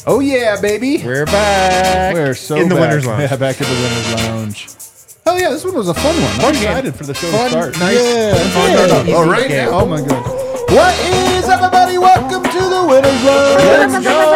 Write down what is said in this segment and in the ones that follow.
Oh yeah, baby. We're back. We're so in the back. Winners Lounge. Yeah, back in the Winners Lounge. Oh yeah, this one was a fun one. I'm excited for the show to start. Nice. Yeah. Fun. Oh, right now. Oh my god. What is up, everybody? Welcome to the Winners Lounge. Let's go.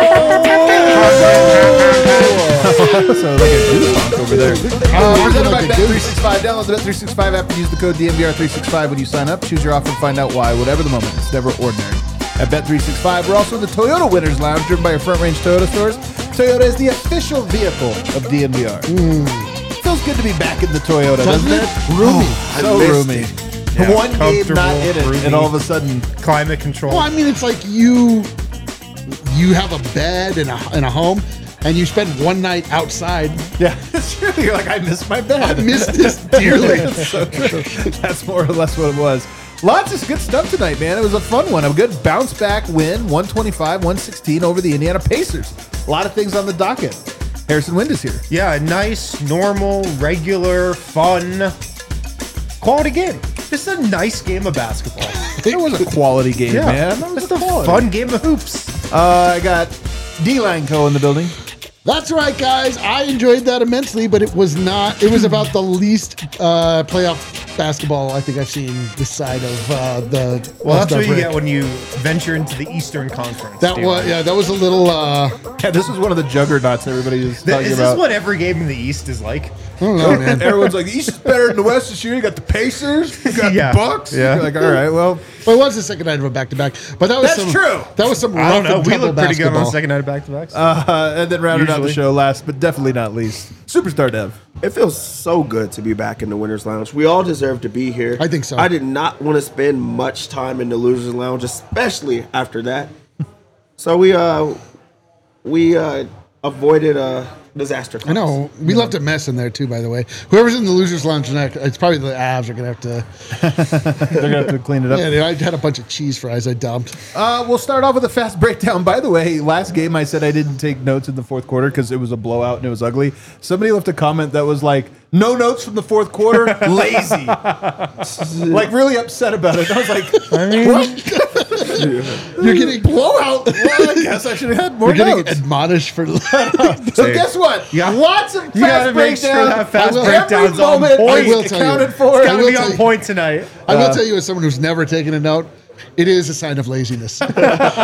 So like a goosebump over there. Presented by Bet365. Download the Bet365 app and use the code DMVR365 when you sign up. Choose your offer and find out why. Whatever the moment, it's never ordinary. At Bet365, we're also in the Toyota Winners Lounge, driven by your Front Range Toyota stores. Toyota is the official vehicle of DMVR. Feels good to be back in the Toyota, doesn't it? Roomy. So roomy. Yeah, One game not in it, roomy. and all of a sudden, Climate control. Well, I mean, it's like you have a bed in a home, and you spend one night outside. yeah, it's true. You're like, I missed my bed. I miss this dearly. That's so true. That's more or less what it was. Lots of good stuff tonight, man. It was a fun one. A good bounce back win, 125-116 over the Indiana Pacers. A lot of things on the docket. Harrison Wind is here. Yeah, a nice, normal, regular, fun, quality game. Just a nice game of basketball. It was a quality game, Yeah, man. That was just a quality. fun game of hoops. I got D-Line Co. in the building. That's right, guys. I enjoyed that immensely, but it was not. It was about the least playoff basketball I think I've seen this side of the. Well, that's the what you break. get when you venture into the Eastern Conference. That was that was a little. Yeah, this was one of the juggernauts everybody was talking Is about. this what every game in the East is like? I don't know, man. Everyone's like, the East is better than the West this year. You got the Pacers, you got Yeah. the Bucks. Yeah. You're like, all right, well, Well, it was the second night of a back-to-back, but that was That's true. That was some. I don't rough know. and We tumble look pretty good on the basketball. second night of back-to-backs. and then rounded out the Usually. show last, but definitely not least, Superstar Dev. It feels so good to be back in the Winners Lounge. We all deserve to be here. I think so. I did not want to spend much time in the Losers Lounge, especially after that. So we avoided a disaster. I know. We left a mess in there too, by the way. Whoever's in the losers lounge tonight, it's probably the Avs are gonna have to. They're going to have to clean it up. Yeah, I had a bunch of cheese fries I dumped. We'll start off with a fast breakdown. By the way, last game I said I didn't take notes in the fourth quarter because it was a blowout and it was ugly. Somebody left a comment that was like, no notes from the fourth quarter, lazy. Like really upset about it. I was like, what? You're getting Blowout? Well, I guess I should have had more You're getting notes. admonished for. So guess what? Yeah. Lots of You gotta fast make sure breakdowns. that fast I will- breakdown's Every on moment point. I will is tell you. accounted for. Gotta will be tell on you. point tonight. I will tell you, as someone who's never taken a note, it is a sign of laziness. All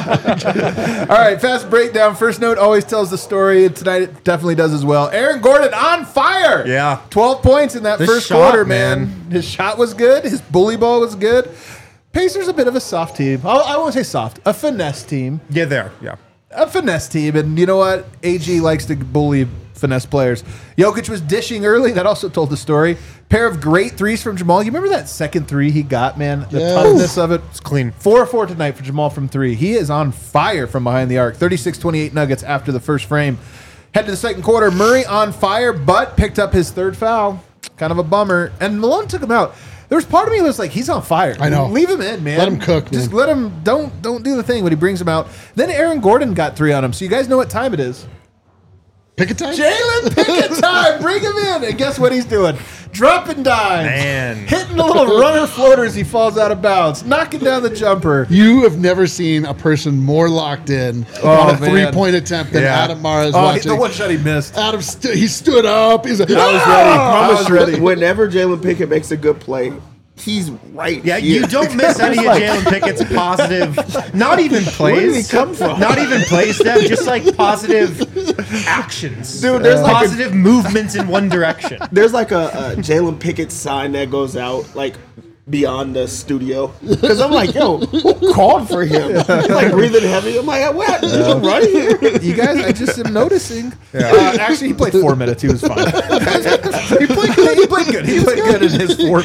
right, fast breakdown. First note always tells the story. And tonight it definitely does as well. Aaron Gordon on fire. Yeah. 12 points in that The first shot, quarter, man. man. His shot was good. His bully ball was good. Pacers a bit of a soft team. I won't say soft. A finesse team. Yeah, there. Yeah. A finesse team. And you know what? AG likes to bully finesse players. Jokic was dishing early. That also told the story. Pair of great threes from Jamal. You remember that second three he got, man? The Yes. toughness of it. It's clean. 4-4 tonight for Jamal from three. He is on fire from behind the arc. 36-28 Nuggets after the first frame. Head to the second quarter. Murray on fire, but picked up his third foul. Kind of a bummer. And Malone took him out. There was part of me that was like, he's on fire. I know. Leave him in, man. Let him cook, Just man. let him. Don't do the thing when he brings him out. Then Aaron Gordon got three on him. So you guys know what time it is. Pick a time. Jalen Pickett time. Bring him in. And guess what he's doing? Dropping dimes. Man. Hitting the little runner floater as he falls out of bounds. Knocking down the jumper. You have never seen a person more locked in on a man. three-point attempt than Yeah. Adam Mara is Oh, watching. the one shot he missed. Adam, he stood up. He's like, I was "Ah!" ready. I was ready. Whenever Jalen Pickett makes a good play, he's right. Yeah, here. you don't miss any of Jalen Pickett's positive, not even plays. Where did he come from? Not even plays, Steph, just like positive actions. Dude, there's like a- positive movements in one direction. There's like a Jalen Pickett sign that goes out like beyond the studio because I'm like, yo, who called for him? Like breathing heavy. I'm like, what? Did you run here? You guys, I just am noticing. Actually, he played 4 minutes. He was fine. he played good. He played good. He played good in his 4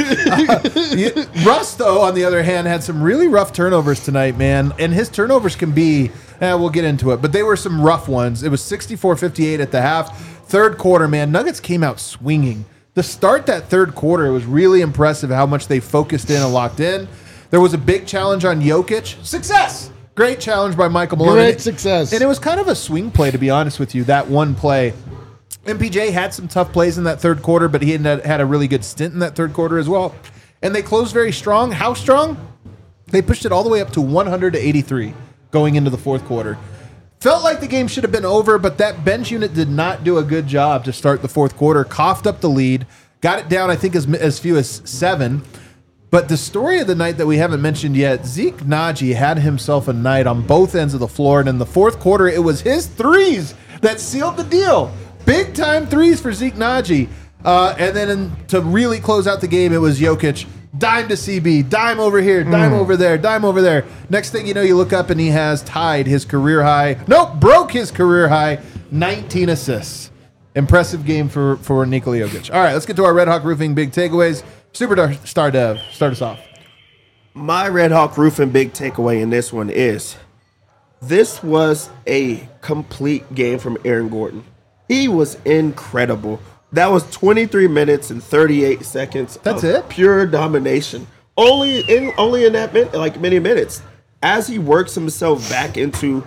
minutes. Russ, though, on the other hand, had some really rough turnovers tonight, man. And his turnovers can be, we'll get into it, but they were some rough ones. It was 64-58 at the half. Third quarter, man, Nuggets came out swinging. To start that third quarter, it was really impressive how much they focused in and locked in. There was a big challenge on Jokic. Success! Great challenge by Michael Malone. Great success. And it was kind of a swing play, to be honest with you, that one play. MPJ had some tough plays in that third quarter, but he had a really good stint in that third quarter as well. And they closed very strong. How strong? They pushed it all the way up to 100 to 83 going into the fourth quarter. Felt like the game should have been over, but that bench unit did not do a good job to start the fourth quarter. Coughed up the lead, got it down, I think, as few as 7. But the story of the night that we haven't mentioned yet, Zeke Nnaji had himself a night on both ends of the floor, and in the fourth quarter, it was his threes that sealed the deal. Big-time threes for Zeke Nnaji. And then to really close out the game, it was Jokic. Dime to CB, dime over here, dime over there, dime over there. Next thing you know, you look up and he has tied his career high. Nope, broke his career high. 19 assists. Impressive game for Nikola Jokic. All right, let's get to our Red Hawk Roofing big takeaways. Superstar Dev, start us off. My Red Hawk Roofing big takeaway in this one is this was a complete game from Aaron Gordon. He was incredible. That was 23 minutes and 38 seconds. That's of it? Pure domination. Only in that many minutes. As he works himself back into,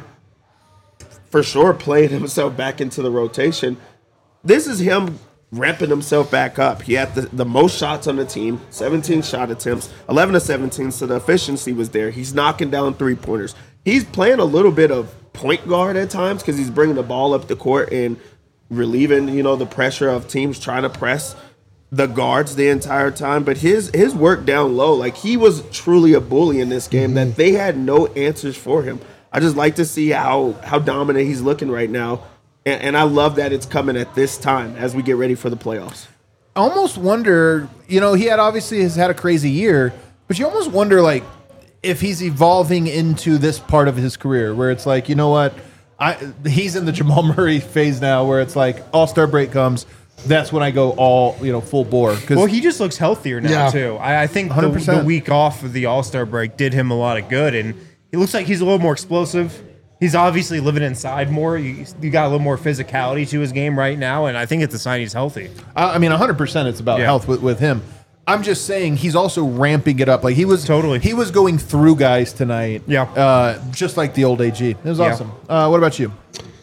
for sure, playing himself back into the rotation. This is him ramping himself back up. He had the most shots on the team, 17 shot attempts, 11 to 17, so the efficiency was there. He's knocking down three-pointers. He's playing a little bit of point guard at times because he's bringing the ball up the court and relieving, the pressure of teams trying to press the guards the entire time. But his work down low, like he was truly a bully in this game that they had no answers for him. I just like to see how dominant he's looking right now. And I love that it's coming at this time as we get ready for the playoffs. I almost wonder, he has had a crazy year, but you almost wonder, like, if he's evolving into this part of his career where it's like, you know what, he's in the Jamal Murray phase now where it's like All-Star break comes, that's when I go all, full bore. Well, he just looks healthier now, too. I think the week off of the All-Star break did him a lot of good, and he looks like he's a little more explosive. He's obviously living inside more. You got a little more physicality to his game right now, and I think it's a sign he's healthy. 100% it's about health with him. I'm just saying he's also ramping it up. Like he was going through guys tonight. Yeah. Just like the old AG. It was awesome. What about you?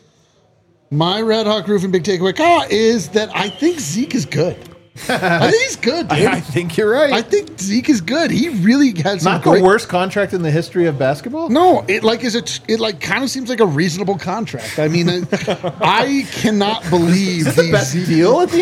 My Red Hawk Roofing big takeaway is that I think Zeke is good. I think he's good, dude. I think you're right. I think Zeke is good. He really has some not the worst contract in the history of basketball. No, it kind of seems like a reasonable contract. I mean, I cannot believe is this the best deal at the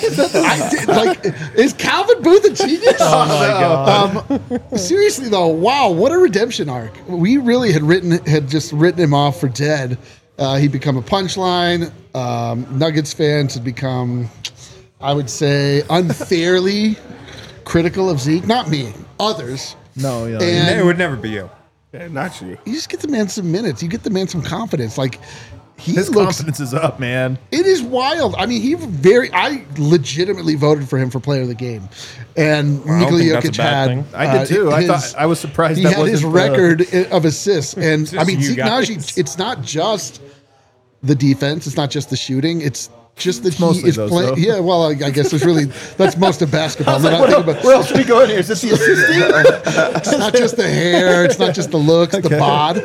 NBA. Is Calvin Booth a genius? Oh my god! Seriously though, wow, what a redemption arc. We really had just written him off for dead. He'd become a punchline. Nuggets fans had become, I would say, unfairly critical of Zeke. Not me, others. No, yeah. And it would never be you. Yeah, not you. You just get the man some minutes. You get the man some confidence. Like his confidence is up, man. It is wild. I mean, I legitimately voted for him for player of the game. And Nikola Jokic had. I did too. I was surprised that wasn't his record of assists. And I mean, Zeke Nnaji, it's not just the defense. It's not just the shooting. It's just that he is playing. Yeah, well, I guess that's most of basketball. Where else are we going here? Is this the assisting? It's not just the hair. It's not just the looks, the bod.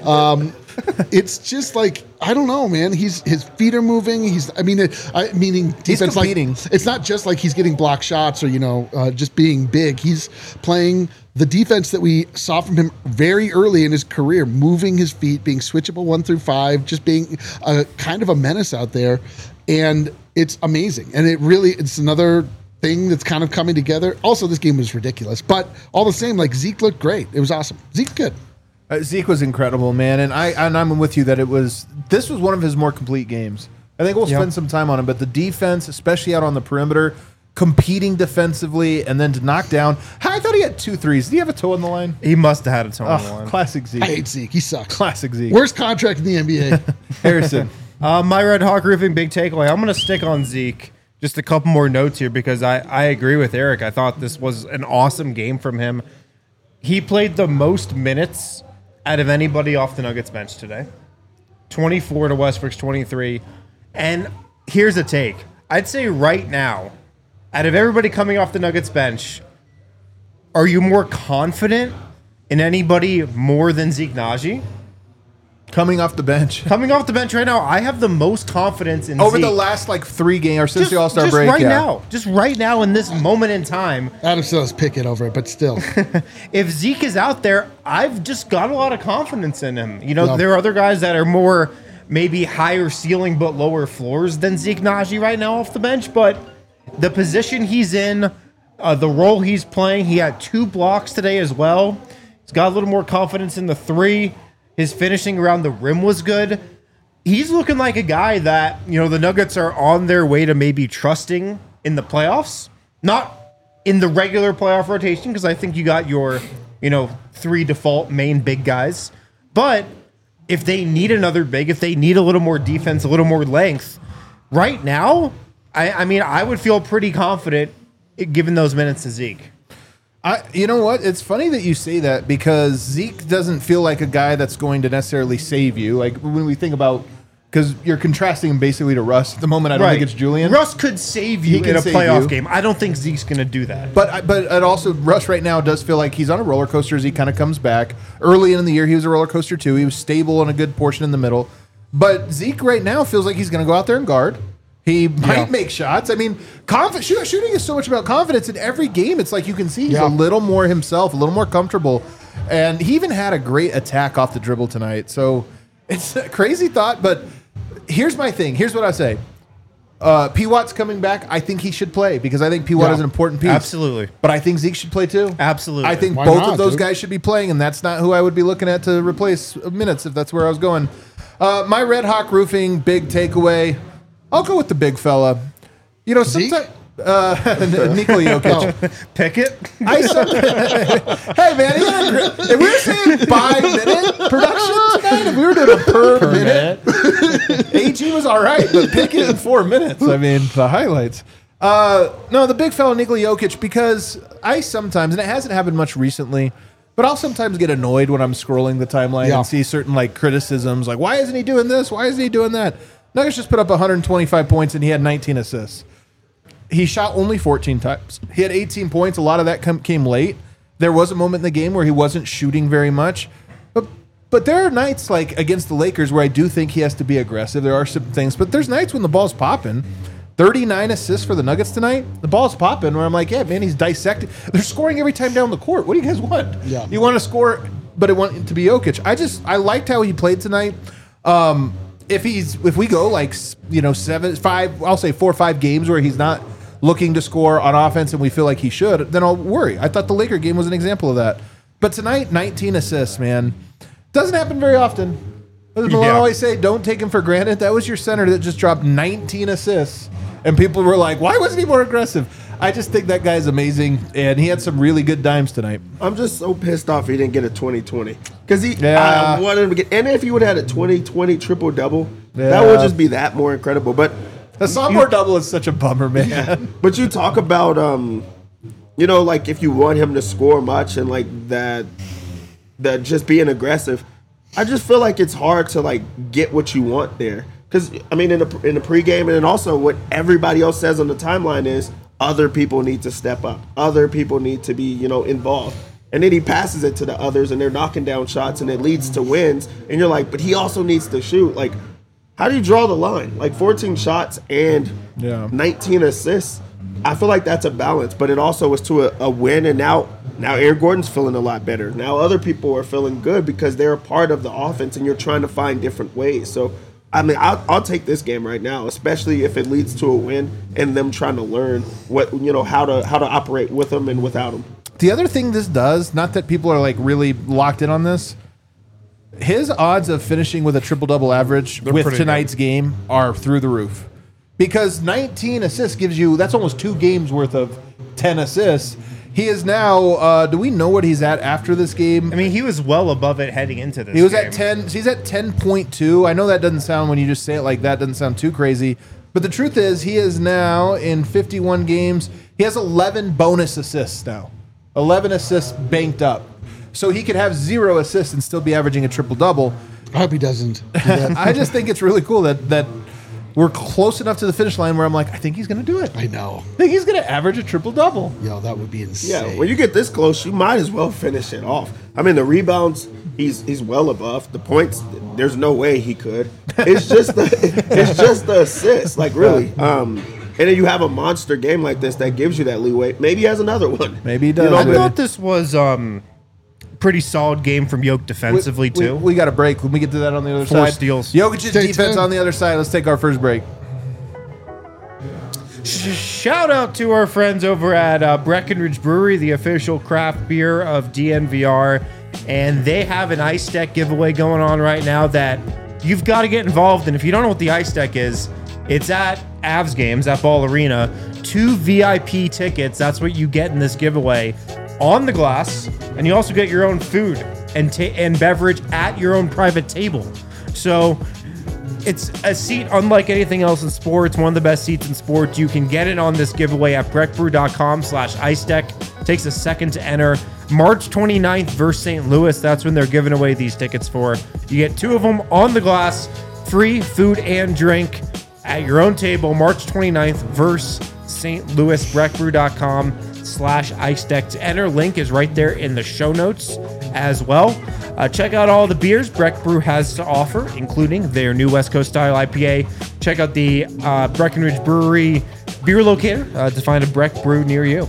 It's just like, I don't know, man. His feet are moving. Meaning defense. He's competing. Like, it's not just like he's getting block shots or just being big. He's playing the defense that we saw from him very early in his career, moving his feet, being switchable 1 through 5, just being a kind of a menace out there. And it's amazing. And it's another thing that's kind of coming together. Also, this game was ridiculous, but all the same, like Zeke looked great. It was awesome. Zeke's good. Zeke was incredible, man. And I'm with you that this was one of his more complete games. I think we'll spend some time on him, but the defense, especially out on the perimeter, competing defensively, and then to knock down. I thought he had 2 threes. Did he have a toe on the line? He must have had a toe on the line. Classic Zeke. I hate Zeke. He sucks. Classic Zeke. Worst contract in the NBA. Harrison. My Red Hawk Roofing big takeaway. I'm going to stick on Zeke. Just a couple more notes here because I agree with Eric. I thought this was an awesome game from him. He played the most minutes out of anybody off the Nuggets bench today. 24 to Westbrook's 23. And here's a take. I'd say right now, out of everybody coming off the Nuggets bench, are you more confident in anybody more than Zeke Nnaji? Coming off the bench. Coming off the bench right now, I have the most confidence in over Zeke. the last 3 games or since the All-Star break. Just right now in this moment in time. Adam still has Pickett over it, but still. If Zeke is out there, I've just got a lot of confidence in him. There are other guys that are more maybe higher ceiling but lower floors than Zeke Nnaji right now off the bench. But the position he's in, the role he's playing, he had 2 blocks today as well. He's got a little more confidence in the 3. His finishing around the rim was good. He's looking like a guy that, the Nuggets are on their way to maybe trusting in the playoffs. Not in the regular playoff rotation, because I think you got your, 3 default main big guys. But if they need another big, if they need a little more defense, a little more length, right now, I would feel pretty confident giving those minutes to Zeke. You know what? It's funny that you say that because Zeke doesn't feel like a guy that's going to necessarily save you. Like when we think about, because you're contrasting him basically to Russ at the moment. I don't think it's Julian. Russ could save you in a playoff game. I don't think Zeke's going to do that. But it also, Russ right now does feel like he's on a roller coaster as he kind of comes back. Early in the year, he was a roller coaster too. He was stable in a good portion in the middle. But Zeke right now feels like he's going to go out there and guard. He might make shots. I mean, shooting is so much about confidence. In every game, it's like you can see he's a little more himself, a little more comfortable. And he even had a great attack off the dribble tonight. So it's a crazy thought, but here's my thing. Here's what I say. P. Watt's coming back. I think he should play because I think P. Watt is an important piece. Absolutely. But I think Zeke should play too. Absolutely. I think both of those guys should be playing, and that's not who I would be looking at to replace minutes if that's where I was going. My Red Hawk Roofing big takeaway. I'll go with the big fella. Sometimes Nikola Jokic. Pickett? Hey, man. If we were saying 5-minute production tonight, if we were doing a per minute, AG was all right, but Pickett in 4 minutes. I mean, the highlights. No, the big fella, Nikola Jokic, because I sometimes, and it hasn't happened much recently, but I'll sometimes get annoyed when I'm scrolling the timeline and see certain criticisms, like, why isn't he doing this? Why isn't he doing that? Nuggets just put up 125 points, and he had 19 assists. He shot only 14 times. He had 18 points. A lot of that came late. There was a moment in the game where he wasn't shooting very much. But there are nights like against the Lakers where I do think he has to be aggressive. There are some things. But there's nights when the ball's popping. 39 assists for the Nuggets tonight. The ball's popping where I'm like, yeah, man, he's dissecting. They're scoring every time down the court. What do you guys want? Yeah. You want to score, but it want it to be Jokic. I liked how he played tonight. If we go 4 or 5 games where he's not looking to score on offense and we feel like he should, then I'll worry. I thought the Laker game was an example of that. But tonight, 19 assists, man. Doesn't happen very often. As Malone always say, don't take him for granted. That was your center that just dropped 19 assists. And people were like, why wasn't he more aggressive? I just think that guy's amazing, and he had some really good dimes tonight. I'm just so pissed off he didn't get a 20-20. Because I wanted him to get, and if he would have had a 20-20 triple-double, that would just be that more incredible. But the sophomore double is such a bummer, man. But you talk about, if you want him to score much and that just being aggressive, I just feel like it's hard to get what you want there. Because in the pregame, and then also what everybody else says on the timeline is other people need to step up, other people need to be involved, and then he passes it to the others, and they're knocking down shots, and it leads to wins, and you're like, but he also needs to shoot. How do you draw the line? 14 shots and 19 assists. I feel like that's a balance, but it also was to a win, and now Aaron Gordon's feeling a lot better. Now other people are feeling good because they're a part of the offense, and you're trying to find different ways. So, I'll take this game right now, especially if it leads to a win and them trying to learn what how to operate with them and without them. The other thing this does, not that people are really locked in on this, his odds of finishing with a triple-double average with tonight's game are through the roof. Because 19 assists gives you, that's almost 2 games worth of 10 assists. He is now, do we know what he's at after this game? He was well above it heading into this He was game. at 10, he's at 10.2. I know that doesn't sound, when you just say it like that, doesn't sound too crazy. But the truth is, he is now in 51 games. He has 11 bonus assists now. 11 assists banked up. So he could have 0 assists and still be averaging a triple-double. I hope he doesn't do that. I just think it's really cool that we're close enough to the finish line where I'm like, I think he's going to do it. I know. I think he's going to average a triple-double. Yo, that would be insane. Yeah, when you get this close, you might as well finish it off. The rebounds, he's well above. The points, there's no way he could. It's just the assists, really. And then you have a monster game like this that gives you that leeway. Maybe he has another one. Maybe he does. I thought this was pretty solid game from Yoke defensively, too. We got a break. When we get to that on the other 4 side. steals. Jokic's Stay defense tuned. on the other side. Let's take our first break. Shout out to our friends over at Breckenridge Brewery, the official craft beer of DNVR. And they have an ice deck giveaway going on right now that you've got to get involved in. If you don't know what the ice deck is, it's at Avs games at Ball Arena. 2 VIP tickets. That's what you get in this giveaway on the glass. And you also get your own food and beverage at your own private table. So it's a seat unlike anything else in sports. One of the best seats in sports. You can get it on this giveaway at breckbrew.com/ice deck. Takes a second to enter. March 29th versus St. Louis. That's when they're giving away these tickets for. You get 2 of them on the glass. Free food and drink at your own table. March 29th versus St. Louis. breckbrew.com/ice deck to enter. Link is right there in the show notes as well. Check out all the beers Breck Brew has to offer, including their new West Coast style IPA. Check out the Breckenridge Brewery beer locator to find a Breck Brew near you.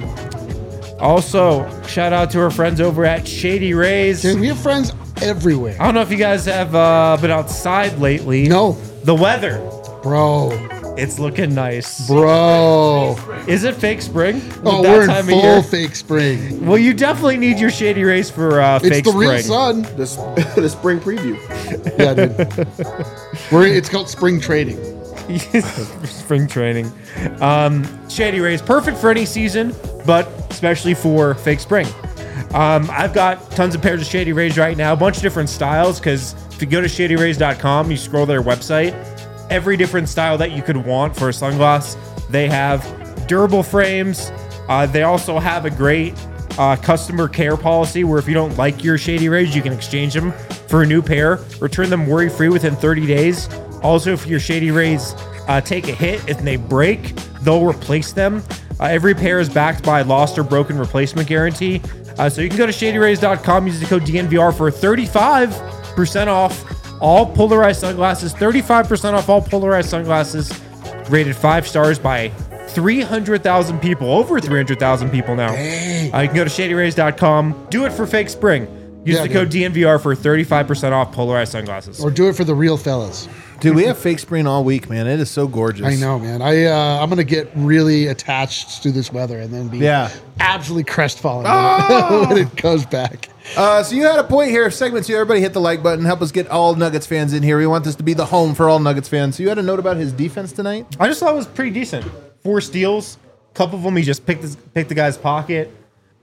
Also, shout out to our friends over at Shady Rays. Dude, we have friends everywhere. I don't know if you guys have been outside lately. No. The weather, Bro. it's looking nice. Bro. Is it fake spring? With Oh, that we're in time of full year? fake spring. Well, you definitely need your Shady Rays for It's fake the spring. real sun. The spring preview. Yeah, dude. It's called spring trading. Spring training. Shady Rays, perfect for any season, but especially for fake spring. I've got tons of pairs of Shady Rays right now, a bunch of different styles, because if you go to shadyrays.com, you scroll their website, every different style that you could want for a sunglass. They have durable frames. They also have a great customer care policy where if you don't like your Shady Rays, you can exchange them for a new pair, return them worry-free within 30 days. Also, if your Shady Rays take a hit and they break, they'll replace them. Every pair is backed by a lost or broken replacement guarantee. So you can go to shadyrays.com, use the code DNVR for 35% off all polarized sunglasses. 35% off all polarized sunglasses, rated 5 stars by 300,000 people, over 300,000 people now. You can go to shadyrays.com, do it for fake spring. Use the code DNVR for 35% off polarized sunglasses. Or do it for the real fellas. Dude, we have fake spring all week, man. It is so gorgeous. I know, man. I'm gonna get really attached to this weather and then be absolutely crestfallen when it goes back. So you had a point here. Segment 2, everybody hit the like button. Help us get all Nuggets fans in here. We want this to be the home for all Nuggets fans. So you had a note about his defense tonight? I just thought it was pretty decent. 4 steals. A couple of them he just picked the guy's pocket.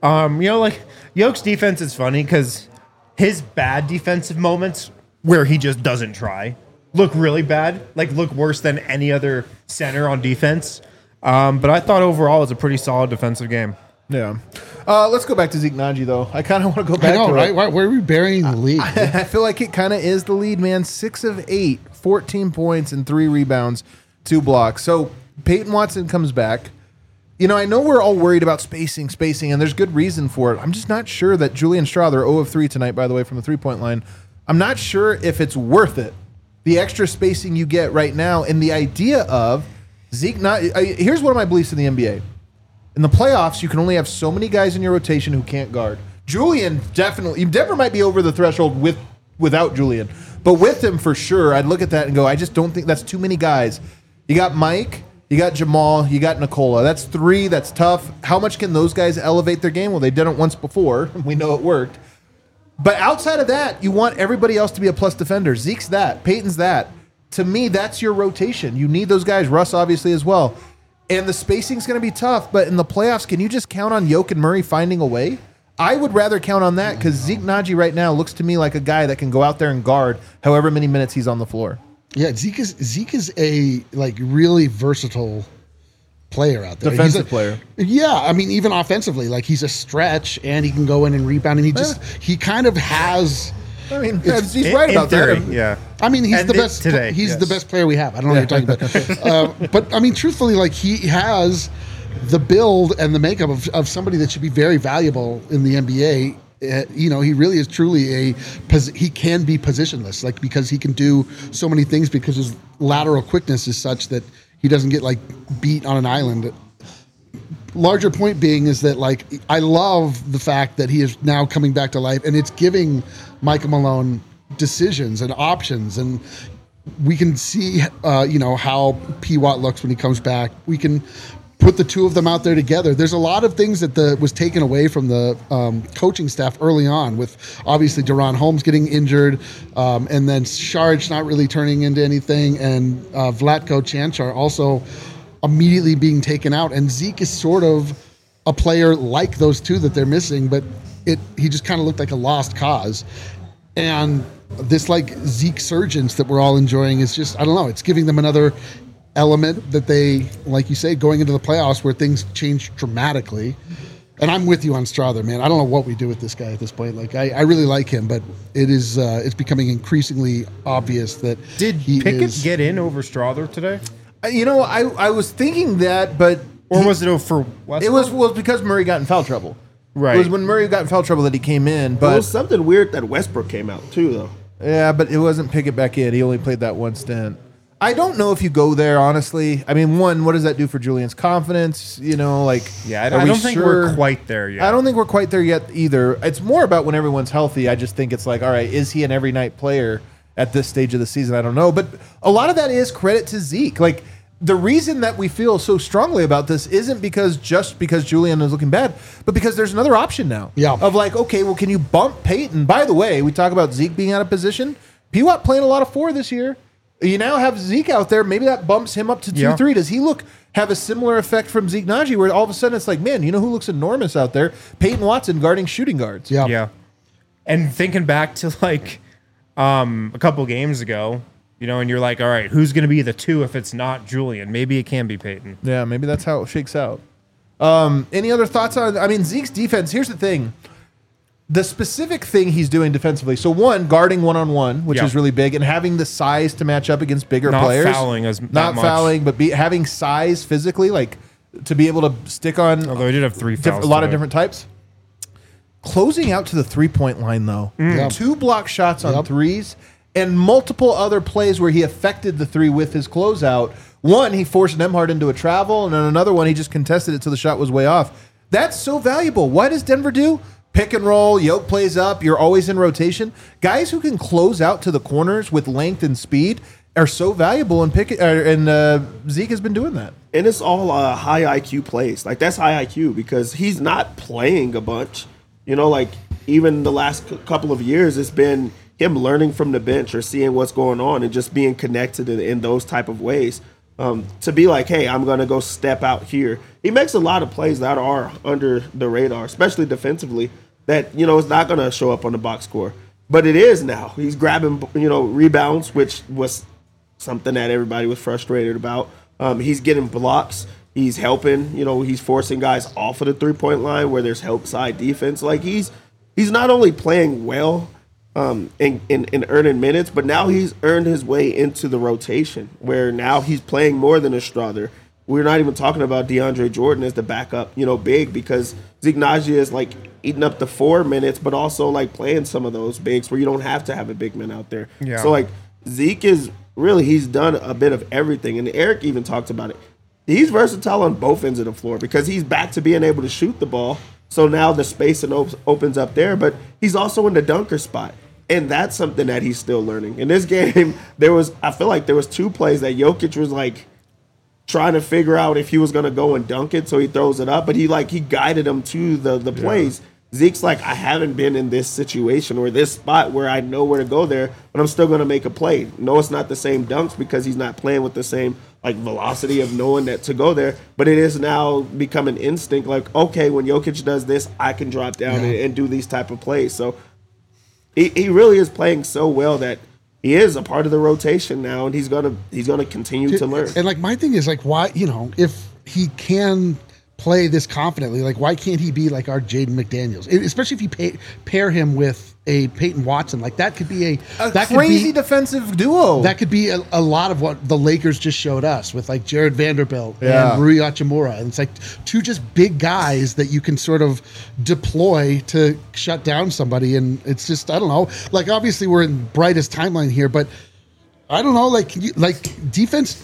Yoke's defense is funny because his bad defensive moments where he just doesn't try look really bad, look worse than any other center on defense. But I thought overall it was a pretty solid defensive game. Yeah. Let's go back to Zeke Naji, though. I kind of want to go back to right? it. Where are we burying the lead? I feel like it kind of is the lead, man. 6 of 8, 14 points and 3 rebounds, 2 blocks. So Peyton Watson comes back. I know we're all worried about spacing, and there's good reason for it. I'm just not sure that Julian Strawther, 0 of 3 tonight, by the way, from the 3-point line. I'm not sure if it's worth it. The extra spacing you get right now, and the idea of Zeke here's one of my beliefs in the NBA. In the playoffs, you can only have so many guys in your rotation who can't guard. Julian Denver might be over the threshold without Julian, but with him for sure, I'd look at that and go, I just don't think that's too many guys. You got Mike, you got Jamal, you got Nikola. That's 3. That's tough. How much can those guys elevate their game? Well, they did it once before. We know it worked. But outside of that, you want everybody else to be a plus defender. Zeke's that. Peyton's that. To me, that's your rotation. You need those guys. Russ, obviously, as well. And the spacing's going to be tough. But in the playoffs, can you just count on Yoke and Murray finding a way? I would rather count on that because Zeke Naji right now looks to me like a guy that can go out there and guard however many minutes he's on the floor. Yeah, Zeke is a really versatile player out there. Defensive player. Yeah, I mean, even offensively, he's a stretch and he can go in and rebound, and he kind of has. I mean, he's right about theory, that. Yeah. I mean, he's the best today. He's the best player we have. I don't know what you're talking about. But I mean, truthfully, he has the build and the makeup of somebody that should be very valuable in the NBA. He really is truly he can be positionless, because he can do so many things because his lateral quickness is such that he doesn't get beat on an island. larger point being is that, like, I love the fact that he is now coming back to life, and it's giving Michael Malone decisions and options, and we can see, how P. Watt looks when he comes back. We can put the two of them out there together. There's a lot of things that was taken away from the coaching staff early on, with obviously Deron Holmes getting injured, and then Sharge not really turning into anything, and Vlatko Chanchar also immediately being taken out. And Zeke is sort of a player like those two that they're missing, but he just kind of looked like a lost cause. And this like Zeke surgence that we're all enjoying is just, I don't know, it's giving them another element that they, like you say, going into the playoffs where things change dramatically. And I'm with you on Strother, man. I don't know what we do with this guy at this point. Like, I really like him, but it's becoming increasingly obvious that Did Pickett get in over Strother today? I was thinking that, but Or was it for Westbrook? it was because Murray got in foul trouble. Right. It was when Murray got in foul trouble that he came in. It But was something weird that Westbrook came out too, though. yeah, but it wasn't Pickett back in. He only played that one stint. I don't know if you go there, honestly. I mean, one, what does that do for Julian's confidence? Yeah, I are don't we think sure? we're quite there yet. I don't think we're quite there yet either. It's more about when everyone's healthy. I just think it's like, all right, is he an every night player at this stage of the season? I don't know. But a lot of that is credit to Zeke. Like, the reason that we feel so strongly about this isn't because Julian is looking bad, but because there's another option now. Yeah. Of like, okay, well, can you bump Peyton? By the way, we talk about Zeke being out of position. P-Watt playing a lot of 4 this year. You now have Zeke out there. Maybe that bumps him up to 2-3. Does he have a similar effect from Zeke Nnaji, where all of a sudden it's like, man, you know who looks enormous out there? Peyton Watson guarding shooting guards. Yeah. Yeah. And thinking back to like a couple games ago, and you're like, all right, who's going to be the 2 if it's not Julian? Maybe it can be Peyton. Yeah, maybe that's how it shakes out. Any other thoughts on, Zeke's defense? Here's the thing. The specific thing he's doing defensively. So one, guarding one-on-one, which is really big, and having the size to match up against bigger players. Not fouling, but having size physically, like to be able to stick on. Although he did have 3 fouls. A lot of different types. Closing out to the 3-point line, though. Yep. 2 block shots on threes, and multiple other plays where he affected the 3 with his closeout. One, he forced Nembhard into a travel, and then another one, he just contested it till the shot was way off. That's so valuable. What does Denver do? Pick and roll, Yoke plays up, you're always in rotation. Guys who can close out to the corners with length and speed are so valuable, and Zeke has been doing that. And it's all high IQ plays. Like, that's high IQ because he's not playing a bunch. Like, even the last couple of years, it's been him learning from the bench or seeing what's going on and just being connected in those type of ways. To be like, hey, I'm going to go step out here. He makes a lot of plays that are under the radar, especially defensively, that, is not going to show up on the box score. But it is now. He's grabbing, rebounds, which was something that everybody was frustrated about. He's getting blocks. He's helping. He's forcing guys off of the 3-point line where there's help side defense. Like, he's not only playing well, in earning minutes, but now he's earned his way into the rotation where now he's playing more than a Strother. We're not even talking about DeAndre Jordan as the backup, big, because Zeke Nnaji is like eating up the 4 minutes, but also like playing some of those bigs where you don't have to have a big man out there. Yeah. So like Zeke is really, he's done a bit of everything. And Eric even talked about it. He's versatile on both ends of the floor because he's back to being able to shoot the ball. So now the space opens up there, but he's also in the dunker spot. And that's something that he's still learning. In this game, I feel like there was 2 plays that Jokic was like trying to figure out if he was going to go and dunk it, so he throws it up. But he guided him to the plays. Zeke's like, I haven't been in this situation or this spot where I know where to go there, but I'm still going to make a play. No, it's not the same dunks because he's not playing with the same like velocity of knowing that to go there, but it is now become an instinct. Like, okay, when Jokic does this, I can drop down and do these type of plays. So he really is playing so well that he is a part of the rotation now, and he's gonna continue to learn. And like my thing is like, why, if he can play this confidently, like why can't he be like our Jaden McDaniels? Especially if you pair him with a Peyton Watson, like that could be a crazy defensive duo. That could be a lot of what the Lakers just showed us with like Jared Vanderbilt and Rui Hachimura. And it's like 2 just big guys that you can sort of deploy to shut down somebody. And it's just, I don't know, like obviously we're in brightest timeline here, but I don't know, like defense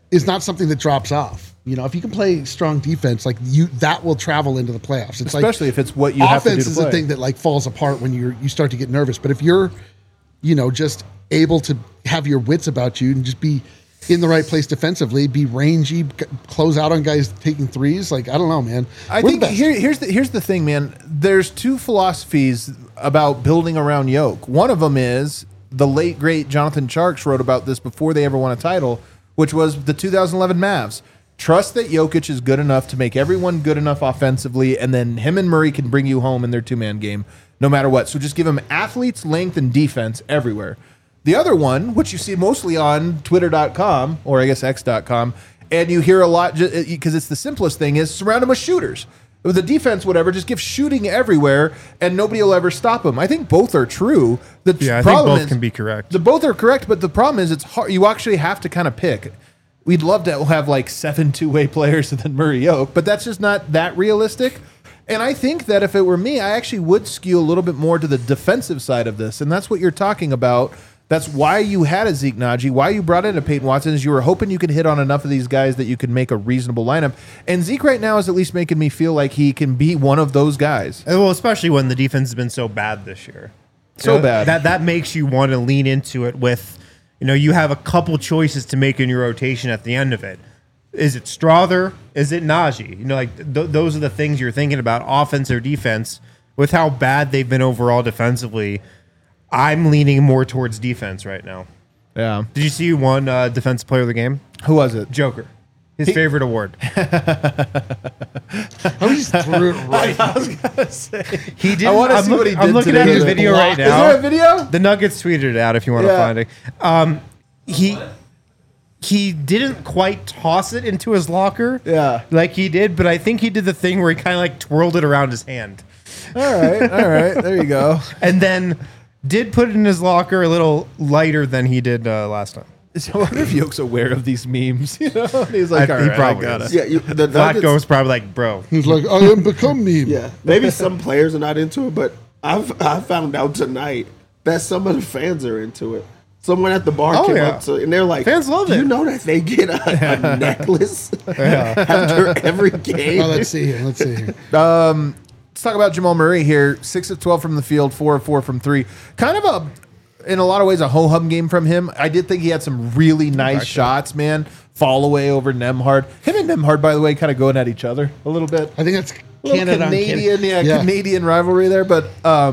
is not something that drops off. You know, if you can play strong defense, like that will travel into the playoffs. It's especially like, if it's what you have to do to offense is play. the thing that like falls apart when you start to get nervous. But if you're, you know, just able to have your wits about you and just be in the right place defensively, be rangy, close out on guys taking threes. Like, I don't know, man. I think here's the thing, man. There's two philosophies about building around Yoke. One of them is the late great Jonathan Tjarks wrote about this before they ever won a title, which was the 2011 Mavs. Trust that Jokic is good enough to make everyone good enough offensively, and then him and Murray can bring you home in their two-man game no matter what. So just give him athletes, length, and defense everywhere. The other one, which you see mostly on Twitter.com, or I guess X.com, and you hear a lot because it's the simplest thing, is surround him with shooters. With the defense, whatever, just give shooting everywhere, and nobody will ever stop him. I think both are true. I think both can be correct. Both are correct, but the problem is it's hard. You actually have to kind of pick. We'd love to have like 7 two-way players and then Murray Yoke, but that's just not that realistic. And I think that if it were me, I actually would skew a little bit more to the defensive side of this, and that's what you're talking about. That's why you had a Zeke Naji, why you brought in a Peyton Watson, is you were hoping you could hit on enough of these guys that you could make a reasonable lineup. And Zeke right now is at least making me feel like he can be one of those guys. Well, especially when the defense has been so bad this year. Bad. That makes you want to lean into it with, you know, you have a couple choices to make in your rotation at the end of it. Is it Strother? Is it Naji? You know, like those are the things you're thinking about, offense or defense. With how bad they've been overall defensively, I'm leaning more towards defense right now. Yeah. Did you see who won Defensive Player of the Game? Who was it? Joker. His favorite award. I just threw it right. I was gonna say. He did. I want to see what he did. I'm looking today. at his video right now. Is there a video? The Nuggets tweeted it out if you want to find it. He didn't quite toss it into his locker. Yeah. Like he did, but I think he did the thing where he kind of like twirled it around his hand. All right. There you go. And then did put it in his locker a little lighter than he did last time. So I wonder if Yoke's aware of these memes. You know, and he's like, He probably I got is. it. Yeah, the Nuggets, Flacco's probably like, bro. He's like, I am become meme. yeah, maybe some players are not into it, but I found out tonight that some of the fans are into it. Someone at the bar came up to, and they're like, Fans love "Do it." you know that they get a necklace after every game?" Oh, let's see here. Let's talk about Jamal Murray here. 6 of 12 from the field, 4 of 4 from 3. Kind of in a lot of ways, a ho-hum game from him. I did think he had some really nice shots, man. Fall away over Nembhard. Him and Nembhard, by the way, kind of going at each other a little bit. I think that's Canada Canadian, Canadian rivalry there. But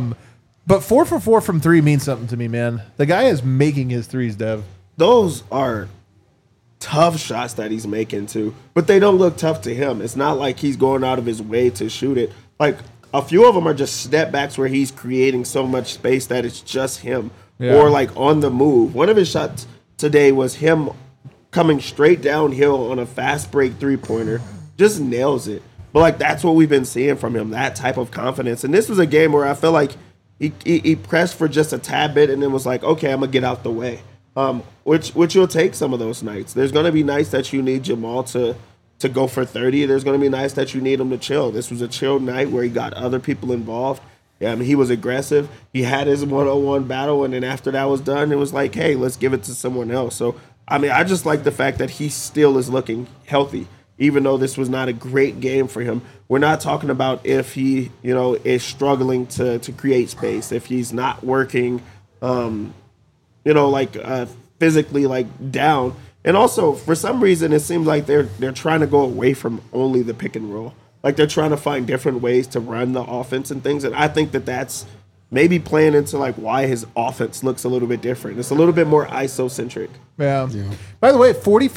4 for 4 from 3 means something to me, man. The guy is making his threes, Dev. Those are tough shots that he's making too, but they don't look tough to him. It's not like he's going out of his way to shoot it. Like a few of them are just step backs where he's creating so much space that it's just him, or like on the move. One of his shots today was him coming straight downhill on a fast break 3-pointer, just nails it. But like that's what we've been seeing from him, that type of confidence. And this was a game where I feel like he pressed for just a tad bit and then was like, okay, I'm gonna get out the way. Which you'll take some of those nights. There's gonna be nights that you need Jamal to go for 30. There's gonna be nights that you need him to chill. This was a chill night where he got other people involved. Yeah, I mean, he was aggressive. He had his one-on-one battle, and then after that was done, it was like, hey, let's give it to someone else. So, I mean, I just like the fact that he still is looking healthy, even though this was not a great game for him. We're not talking about if he, you know, is struggling to create space, if he's not working, you know, like physically like down. And also, for some reason, it seems like they're trying to go away from only the pick and roll. Like they're trying to find different ways to run the offense and things. And I think that's maybe playing into like why his offense looks a little bit different. It's a little bit more ISO-centric. Yeah. By the way,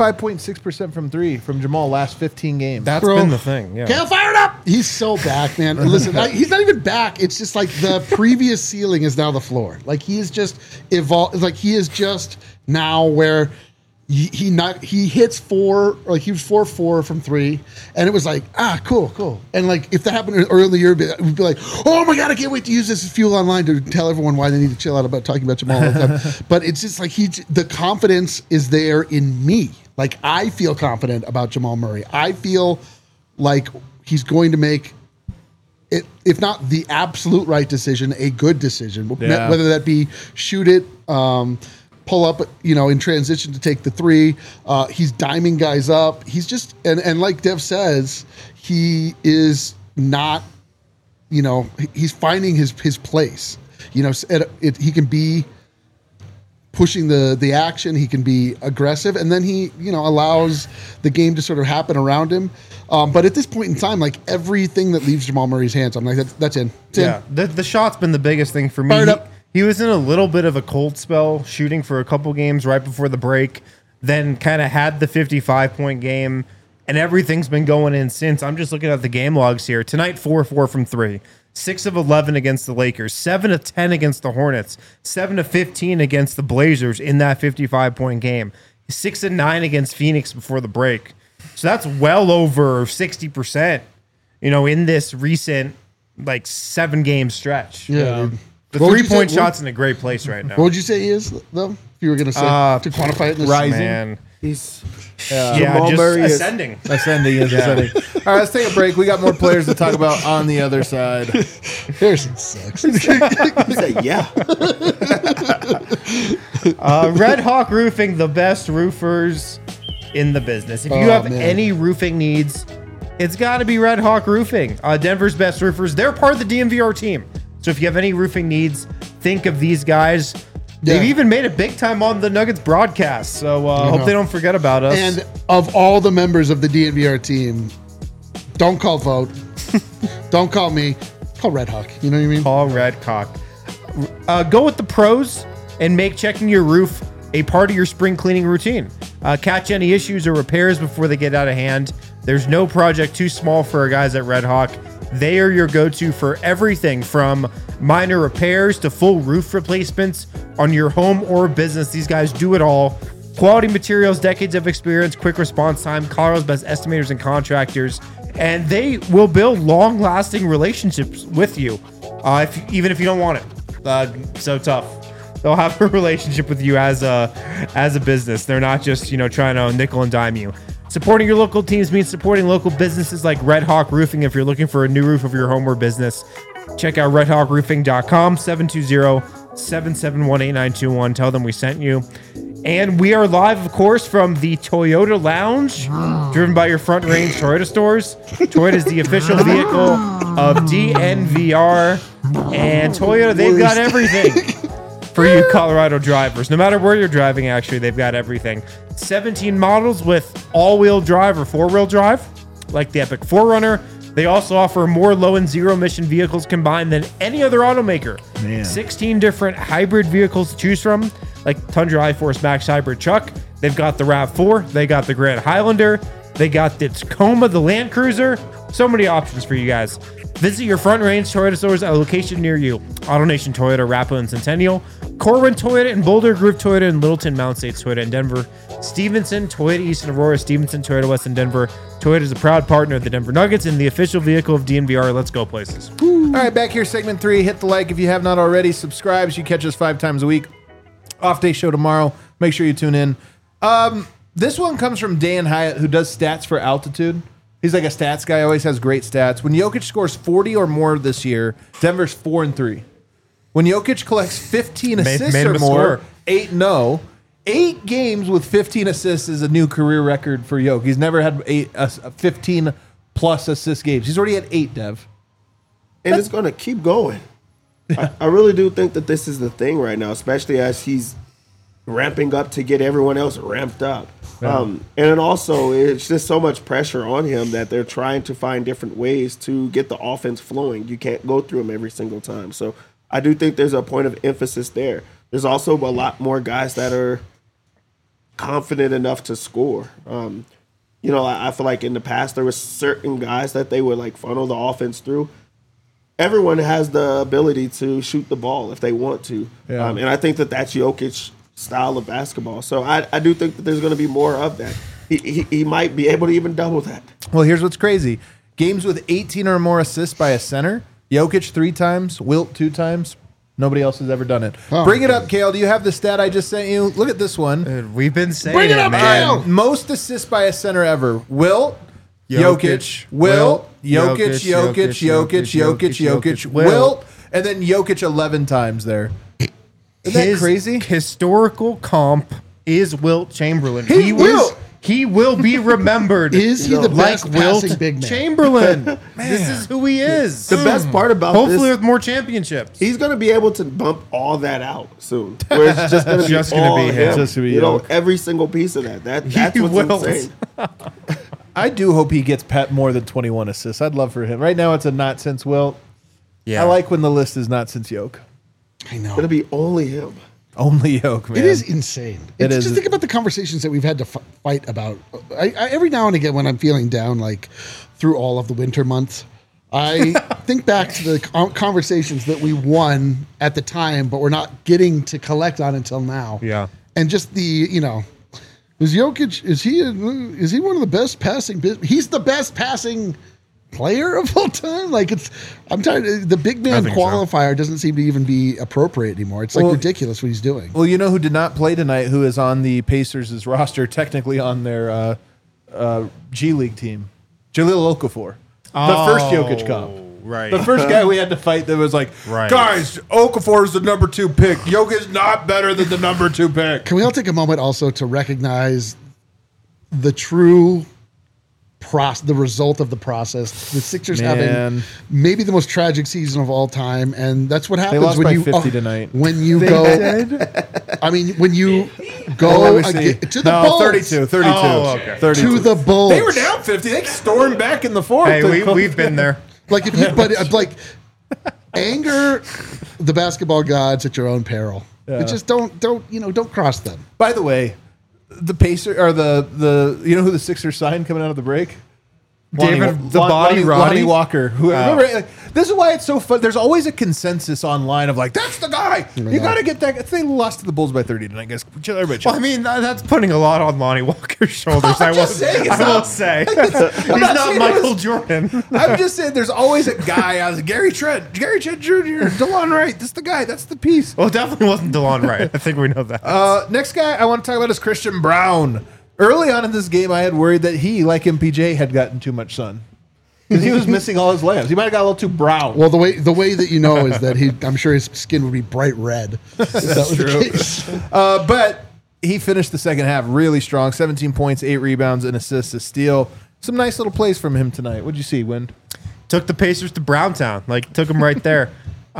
45.6% from 3 from Jamal last 15 games. That's been the thing. Yeah. Kale fired up. He's so back, man. Listen, he's not even back. It's just like the previous ceiling is now the floor. Like he is just evolved. Like he is just now where he hits 4, like he was 4-4 from 3, and it was like, cool. And like if that happened early in the year, we'd be like, oh my god, I can't wait to use this as fuel online to tell everyone why they need to chill out about talking about Jamal all the time. But it's just like the confidence is there in me. Like I feel confident about Jamal Murray. I feel like he's going to make it, if not the absolute right decision, a good decision. Yeah. Whether that be shoot it, pull up, in transition to take the three. He's diming guys up. He's just, and like Dev says, he is not, he's finding his place. He can be pushing the action. He can be aggressive, and then he, allows the game to sort of happen around him. But at this point in time, like everything that leaves Jamal Murray's hands, I'm like, that's in. It's in. The shot's been the biggest thing for me. He was in a little bit of a cold spell, shooting for a couple games right before the break, then kind of had the 55-point game, and everything's been going in since. I'm just looking at the game logs here. Tonight, 4-4 from 3. 6 of 11 against the Lakers, 7 of 10 against the Hornets, 7 of 15 against the Blazers in that 55-point game, 6 of 9 against Phoenix before the break. So that's well over 60%, in this recent 7-game stretch. Yeah. The 3-point shot's in a great place right now. What would you say he is, though? If you were going to say to quantify it, in this rising. Man. He's just ascending. Ascending. All right, let's take a break. We got more players to talk about on the other side. Harrison sucks. He said, yeah. Red Hawk Roofing, the best roofers in the business. If you have any roofing needs, it's got to be Red Hawk Roofing. Denver's best roofers. They're part of the DMVR team. So if you have any roofing needs, think of these guys. They've even made it big time on the Nuggets broadcast. So hope they don't forget about us. And of all the members of the DNVR team, don't call Vote. Don't call me. Call Red Hawk. You know what I mean? Call Red Hawk. Go with the pros and make checking your roof a part of your spring cleaning routine. Catch any issues or repairs before they get out of hand. There's no project too small for our guys at Red Hawk. They are your go-to for everything from minor repairs to full roof replacements on your home or business. These guys do it all. Quality materials, decades of experience, quick response time, Colorado's best estimators and contractors, and they will build long-lasting relationships with you, even if you don't want it. So tough. They'll have a relationship with you as a business. They're not just trying to nickel and dime you. Supporting your local teams means supporting local businesses like Red Hawk Roofing. If you're looking for a new roof of your home or business, check out redhawkroofing.com, 720-771-8921. Tell them we sent you. And we are live, of course, from the Toyota Lounge, driven by your Front Range Toyota stores. Toyota is the official vehicle of DNVR. And Toyota, they've got everything for you Colorado drivers. No matter where you're driving, actually, they've got everything. 17 models with all-wheel drive or four-wheel drive, like the Epic 4Runner. They also offer more low and zero-emission vehicles combined than any other automaker. Man. 16 different hybrid vehicles to choose from, like Tundra iForce Max Hybrid Truck. They've got the RAV4. They got the Grand Highlander. They got the Tacoma, the Land Cruiser. So many options for you guys. Visit your Front Range Toyota stores at a location near you. AutoNation Toyota, Rappa and Centennial. Corwin Toyota and Boulder Grove Toyota and Littleton Mount States Toyota in Denver. Stevenson, Toyota East and Aurora, Stevenson, Toyota West in Denver. Toyota is a proud partner of the Denver Nuggets and the official vehicle of DNVR. Let's go places. All right, back here, segment 3. Hit the like if you have not already. Subscribe so you catch us 5 times a week. Off day show tomorrow. Make sure you tune in. This one comes from Dan Hyatt, who does stats for Altitude. He's like a stats guy, always has great stats. When Jokic scores 40 or more this year, Denver's 4-3. When Jokic collects 15 assists or more, 8-0. 8 games with 15 assists is a new career record for Jokic. He's never had 15 plus assist games. He's already had 8, Dev. And it's going to keep going. I really do think that this is the thing right now, especially as he's ramping up to get everyone else ramped up. Yeah. And then also, it's just so much pressure on him that they're trying to find different ways to get the offense flowing. You can't go through them every single time. So I do think there's a point of emphasis there. There's also a lot more guys that are confident enough to score. I feel like in the past there were certain guys that they would like funnel the offense through. Everyone has the ability to shoot the ball if they want to. Yeah. And I think that that's Jokic's style of basketball. So I do think that there's going to be more of that. He might be able to even double that. Well, here's what's crazy. Games with 18 or more assists by a center, Jokic 3 times, Wilt 2 times. Nobody else has ever done it. Oh, bring it up, Kale. Do you have the stat I just sent you? Look at this one. Dude, we've been saying bring it up, man. Most assists by a center ever. Wilt, Jokic, Wilt, Jokic, Wilt, and then Jokic 11 times there. Isn't that crazy? Historical comp is Wilt Chamberlain. Wilt. He will be remembered. Is he the best like passing Wilt big man? Chamberlain? This is who he is. The best part about Hopefully this, with more championships. he's going to be able to bump all that out soon. Where it's just going to be Just gonna all be him. Just gonna be you know, Yoke. every single piece of that. That's He what's will. insane. I do hope he gets more than 21 assists. I'd love for him. Right now, it's a not since Wilt. Yeah. I like when the list is not since Yoke. I know. It'll be only him. Only Yoke, man. It is insane. It Just is. think about the conversations that we've had to fight about. I every now and again, when I'm feeling down, like through all of the winter months, I think back to the conversations that we won at the time, but we're not getting to collect on until now. Yeah. And just is Jokic, is he one of the best passing? He's the best passing player of all time. Like I'm tired. The big man think so. qualifier doesn't seem to even be appropriate anymore. It's like ridiculous what he's doing. Well, you know who did not play tonight, who is on the Pacers' roster, technically on their G League team? Jahlil Okafor. The first Jokic comp. Right. The first guy we had to fight that was like, Right. guys, Okafor is the number 2 pick. Jokic's not better than the number 2 pick. Can we all take a moment also to recognize the true the result of the process? The Sixers Man. having maybe the most tragic season of all time, and that's what happens lost when by you 50 tonight. When you go, I mean, when you Let go me see. to the Bulls, 32. Oh, okay. 32. to the Bulls. They were down 50. They stormed back in the fourth. Hey, we've been there. Like if you, but like anger the basketball gods at your own peril. Yeah. Just don't cross them. By the way, the Pacer or the you know who the Sixers signed coming out of the break? David the Body Roddy? Lonnie Walker. Who, remember, this is why it's so fun. There's always a consensus online of like, that's the guy. You got to get that. They lost to the Bulls by 30 tonight, guys. Everybody chill. Well, I mean, that's putting a lot on Lonnie Walker's shoulders. I will say. He's not Michael Jordan. I'm just saying there's always a guy. I was like, Gary Trent Jr., DeLon Wright. That's the guy. That's the piece. Well, it definitely wasn't DeLon Wright. I think we know that. Next guy I want to talk about is Christian Brown. Early on in this game, I had worried that he, like MPJ, had gotten too much sun. Because he was missing all his layups. He might have got a little too brown. Well, the way that you know is that I'm sure his skin would be bright red. If that was true. the case. But he finished the second half really strong. 17 points, 8 rebounds, an assist, a steal. Some nice little plays from him tonight. What'd you see, Wind? Took the Pacers to Browntown. Like, took them right there.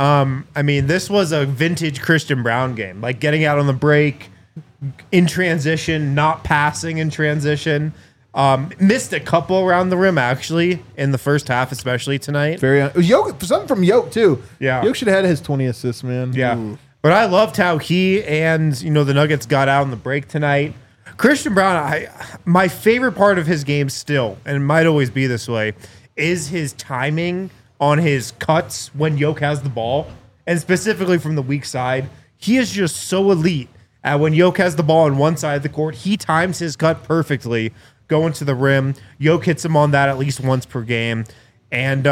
I mean, this was a vintage Christian Brown game. Like, getting out on the break, in transition, not passing in transition. Missed a couple around the rim, actually, in the first half, especially tonight. Yoke, something from Yoke, too. Yeah. Yoke should have had his 20 assists, man. Yeah. But I loved how he and, the Nuggets got out on the break tonight. Christian Brown, my favorite part of his game still, and it might always be this way, is his timing on his cuts when Yoke has the ball, and specifically from the weak side. He is just so elite. When Yoke has the ball on one side of the court, he times his cut perfectly, going to the rim. Yoke hits him on that at least once per game. And,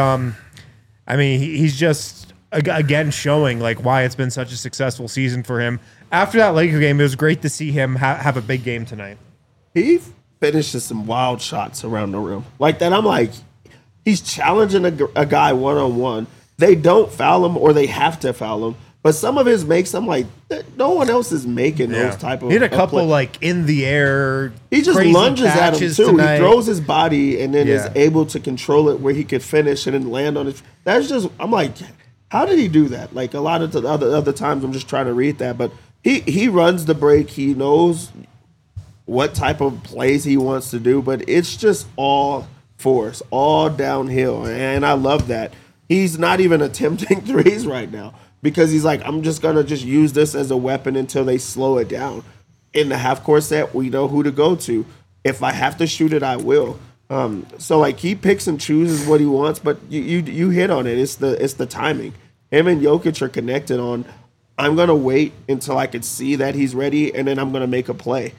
I mean, he's just, again, showing like why it's been such a successful season for him. After that Laker game, it was great to see him have a big game tonight. He finishes some wild shots around the rim. Like that, I'm like, he's challenging a guy one-on-one. They don't foul him or they have to foul him. But some of his makes, I'm like, no one else is making those type of. He had a couple plays. like in the air. He just crazy lunges at him catches too. tonight. He throws his body and then is Yeah. able to control it where he could finish and then land on it. That's just, I'm like, how did he do that? Like a lot of the other times, I'm just trying to read that, but he runs the break. He knows what type of plays he wants to do, but it's just all force, all downhill, and I love that. He's not even attempting threes right now. Because he's like, I'm just going to just use this as a weapon until they slow it down. In the half-court set, we know who to go to. If I have to shoot it, I will. So, like, he picks and chooses what he wants, but you hit on it. It's the timing. Him and Jokic are connected on, I'm going to wait until I can see that he's ready, and then I'm going to make a play.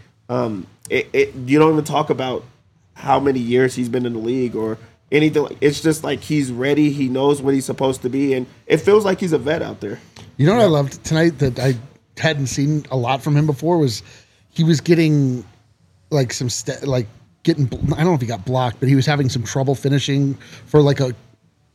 You don't even talk about how many years he's been in the league or anything. It's just like he's ready. He knows what he's supposed to be, and it feels like he's a vet out there. You know what I loved tonight that I hadn't seen a lot from him before was he was getting like I don't know if he got blocked, but he was having some trouble finishing for like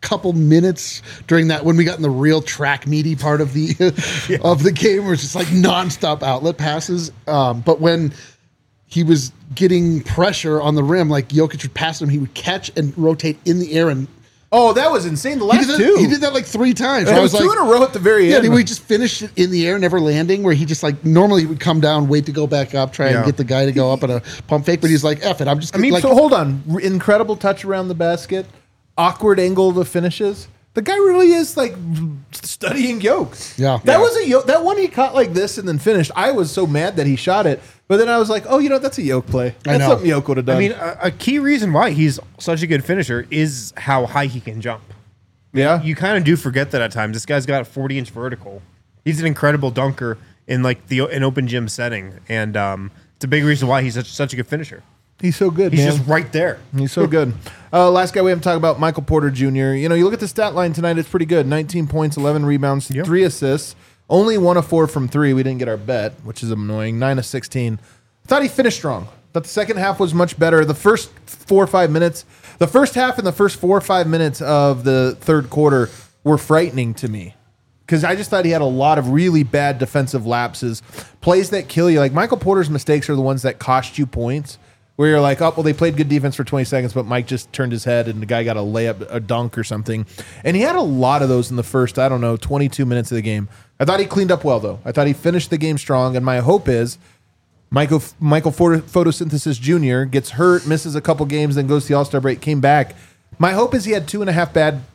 couple minutes during that when we got in the real track meaty part of the of the game where it's just like nonstop outlet passes. But when he was getting pressure on the rim, like Jokic would pass him, he would catch and rotate in the air and. Oh, that was insane. The last two. He did that like 3 times. It was 2 in a row at the very end. Yeah, we just finished it in the air, never landing, where he just like normally he would come down, wait to go back up, try and get the guy to go up at a pump fake, but he's like, F it, I'm just like, so hold on. Incredible touch around the basket, awkward angle to finishes. The guy really is like studying Yokes. Yeah. That was that one he caught like this and then finished. I was so mad that he shot it, but then I was like, oh, that's a Yoke play. That's something Yoke would have done. I mean, a key reason why he's such a good finisher is how high he can jump. Yeah. You kind of do forget that at times. This guy's got a 40-inch vertical. He's an incredible dunker in like an open gym setting, and it's a big reason why he's such a good finisher. He's so good, He's man. just right there. He's so good. Last guy we haven't talked about, Michael Porter Jr. You look at the stat line tonight, it's pretty good. 19 points, 11 rebounds, 3 assists. Only 1 of 4 from 3. We didn't get our bet, which is annoying. 9 of 16. I thought he finished strong. But the second half was much better. The first 4 or 5 minutes, the first half and the first 4 or 5 minutes of the third quarter were frightening to me. Because I just thought he had a lot of really bad defensive lapses, plays that kill you. Like Michael Porter's mistakes are the ones that cost you points. Where you're like, oh, well, they played good defense for 20 seconds, but Mike just turned his head and the guy got a layup, a dunk or something. And he had a lot of those in the first, 22 minutes of the game. I thought he cleaned up well, though. I thought he finished the game strong. And my hope is Michael Photosynthesis Jr. gets hurt, misses a couple games, then goes to the All-Star break, came back. My hope is he had 2.5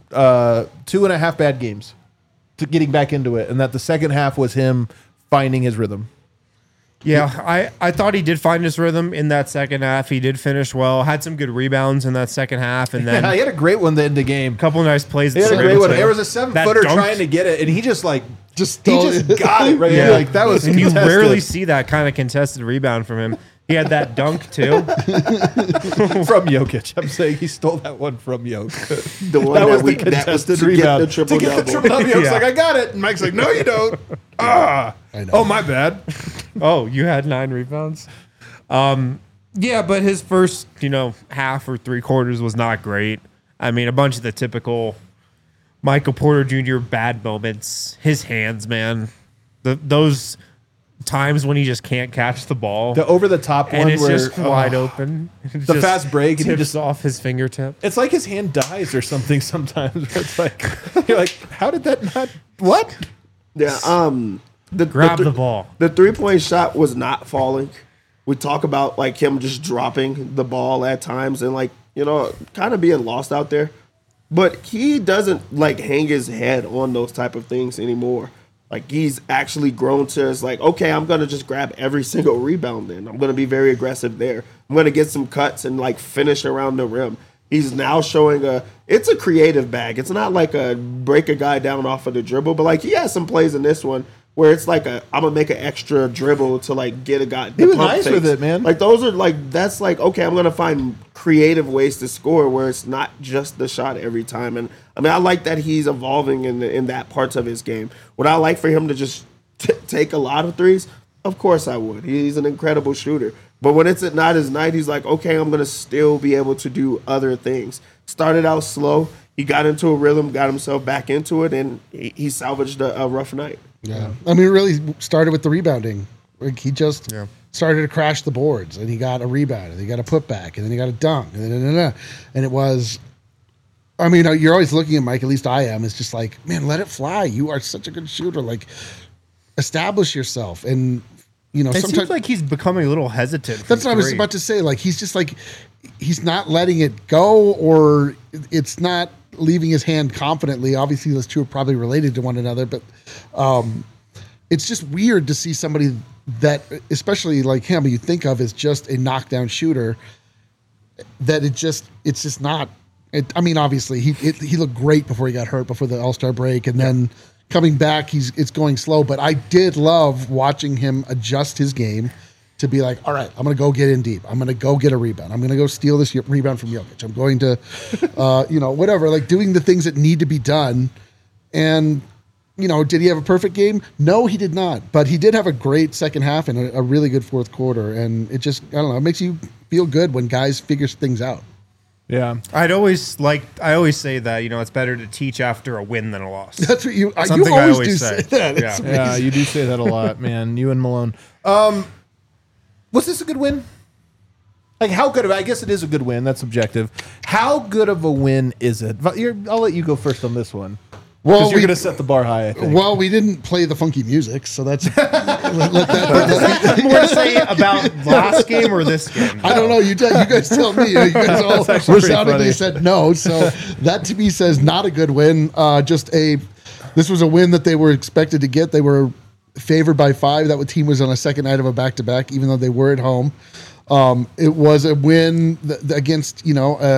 bad games to getting back into it, and that the second half was him finding his rhythm. Yeah, I thought he did find his rhythm in that second half. He did finish well, had some good rebounds in that second half, and then he had a great one to end the game. A couple nice plays. He had a great one. There was a 7-footer trying to get it, and he just got it right. Yeah. Like that was and contested. You rarely see that kind of contested rebound from him. He had that dunk too from Jokic. I'm saying he stole that one from Jokic. The one that was the contested rebound to get the triple double. Joki's like, I got it, and Mike's like, no, you don't. I know. Oh, my bad. Oh, you had 9 rebounds. Yeah, but his first, half or 3 quarters was not great. I mean, a bunch of the typical Michael Porter Jr. bad moments. His hands, man. Those times when he just can't catch the ball. The over-the-top one and it's where just wide open. The fast break. And he just off his fingertip. It's like his hand dies or something sometimes. Where it's like, you're like, how did that not... What? Yeah, Grab the ball. The 3-point shot was not falling. We talk about like him just dropping the ball at times and kind of being lost out there. But he doesn't hang his head on those type of things anymore. Like he's actually grown to it's like, okay, I'm gonna just grab every single rebound. Then I'm gonna be very aggressive there. I'm gonna get some cuts and finish around the rim. He's now showing it's a creative bag. It's not like a break a guy down off of the dribble, but he has some plays in this one where it's I'm gonna make an extra dribble to get a guy. He was nice with it, man. Those are that's okay, I'm gonna find creative ways to score where it's not just the shot every time. And I mean, I like that he's evolving in that parts of his game. Would I like for him to just take a lot of threes? Of course I would. He's an incredible shooter. But when it's not his night, he's like, okay, I'm gonna still be able to do other things. Started out slow. He got into a rhythm, got himself back into it, and he salvaged a rough night. Yeah, I mean, it really started with the rebounding. He just started to crash the boards, and he got a rebound, and he got a putback, and then he got a dunk, and it was. I mean, you're always looking at Mike. At least I am. It's just like, man, let it fly. You are such a good shooter. Establish yourself, and it sometimes seems like he's becoming a little hesitant. That's what I was about to say. He's just he's not letting it go, or it's not leaving his hand confidently. Obviously, those two are probably related to one another, but it's just weird to see somebody that, especially like him, you think of as just a knockdown shooter, that it's just not. I mean, obviously, he looked great before he got hurt before the All-Star break, and then coming back, it's going slow. But I did love watching him adjust his game to be like, all right, I'm going to go get in deep. I'm going to go get a rebound. I'm going to go steal this rebound from Jokic. I'm going to, whatever, doing the things that need to be done. And, did he have a perfect game? No, he did not. But he did have a great second half and a really good fourth quarter. And it just, I don't know, it makes you feel good when guys figure things out. Yeah. I always say that, it's better to teach after a win than a loss. That's what you Something you I always always do say. say that. Yeah. It's Yeah, amazing. you do say that a lot, man. You and Malone. Was this a good win? Like, how good of? I guess it is a good win. That's subjective. How good of a win is it? I'll let you go first on this one. Well, Because you're going to set the bar high, I think. Well, we didn't play the funky music, so that's let More to say about last game or this game? I don't know. You guys tell me. You guys all actually pretty resoundingly funny. said no. So that to me says not a good win. This was a win that they were expected to get. They were favored by 5. That team was on a second night of a back-to-back, even though they were at home. It was a win against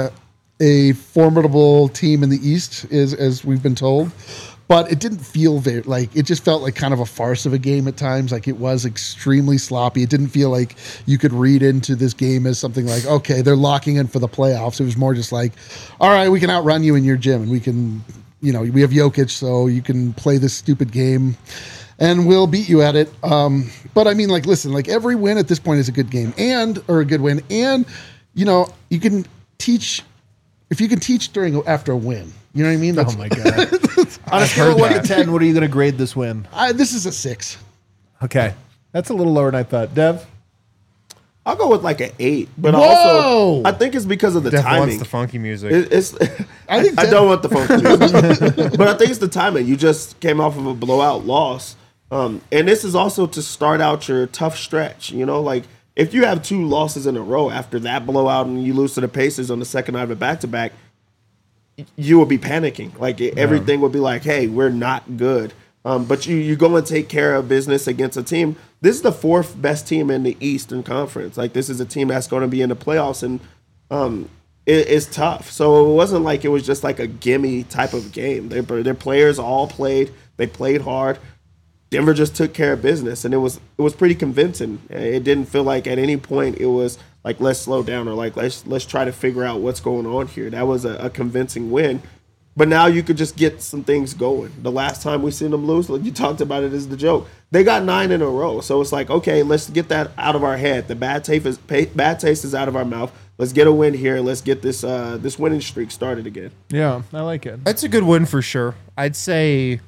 a formidable team in the East, as we've been told. But it didn't feel it just felt like kind of a farce of a game at times. Like, it was extremely sloppy. It didn't feel like you could read into this game as something like, okay, they're locking in for the playoffs. It was more just like, all right, we can outrun you in your gym, and we can, we have Jokic, so you can play this stupid game and we'll beat you at it. But I mean, listen, every win at this point is a good game or a good win. And, you can teach, if you can teach after a win, you know what I mean? Oh, my God. On a scale of 1 to 10, what are you going to grade this win? This is a 6. Okay. That's a little lower than I thought. Dev? I'll go with an 8, but Whoa! also I think it's because of the Def timing. wants the funky music. I don't want the funky music, but I think it's the timing. You just came off of a blowout loss, and this is also to start out your tough stretch. If you have 2 losses in a row after that blowout and you lose to the Pacers on the second night of a back-to-back, you will be panicking. Everything will be like, hey, we're not good. But you go and take care of business against a team. This is the 4th best team in the Eastern Conference. This is a team that's going to be in the playoffs, and it's tough. So it wasn't like it was just a gimme type of game. Their players all played. They played hard. Denver just took care of business, and it was pretty convincing. It didn't feel like at any point it was let's slow down or let's try to figure out what's going on here. That was a convincing win. But now you could just get some things going. The last time we seen them lose, you talked about it as the joke. They got 9 in a row. So it's okay, let's get that out of our head. The bad taste is out of our mouth. Let's get a win here, and let's get this winning streak started again. Yeah, I like it. That's a good win for sure. I'd say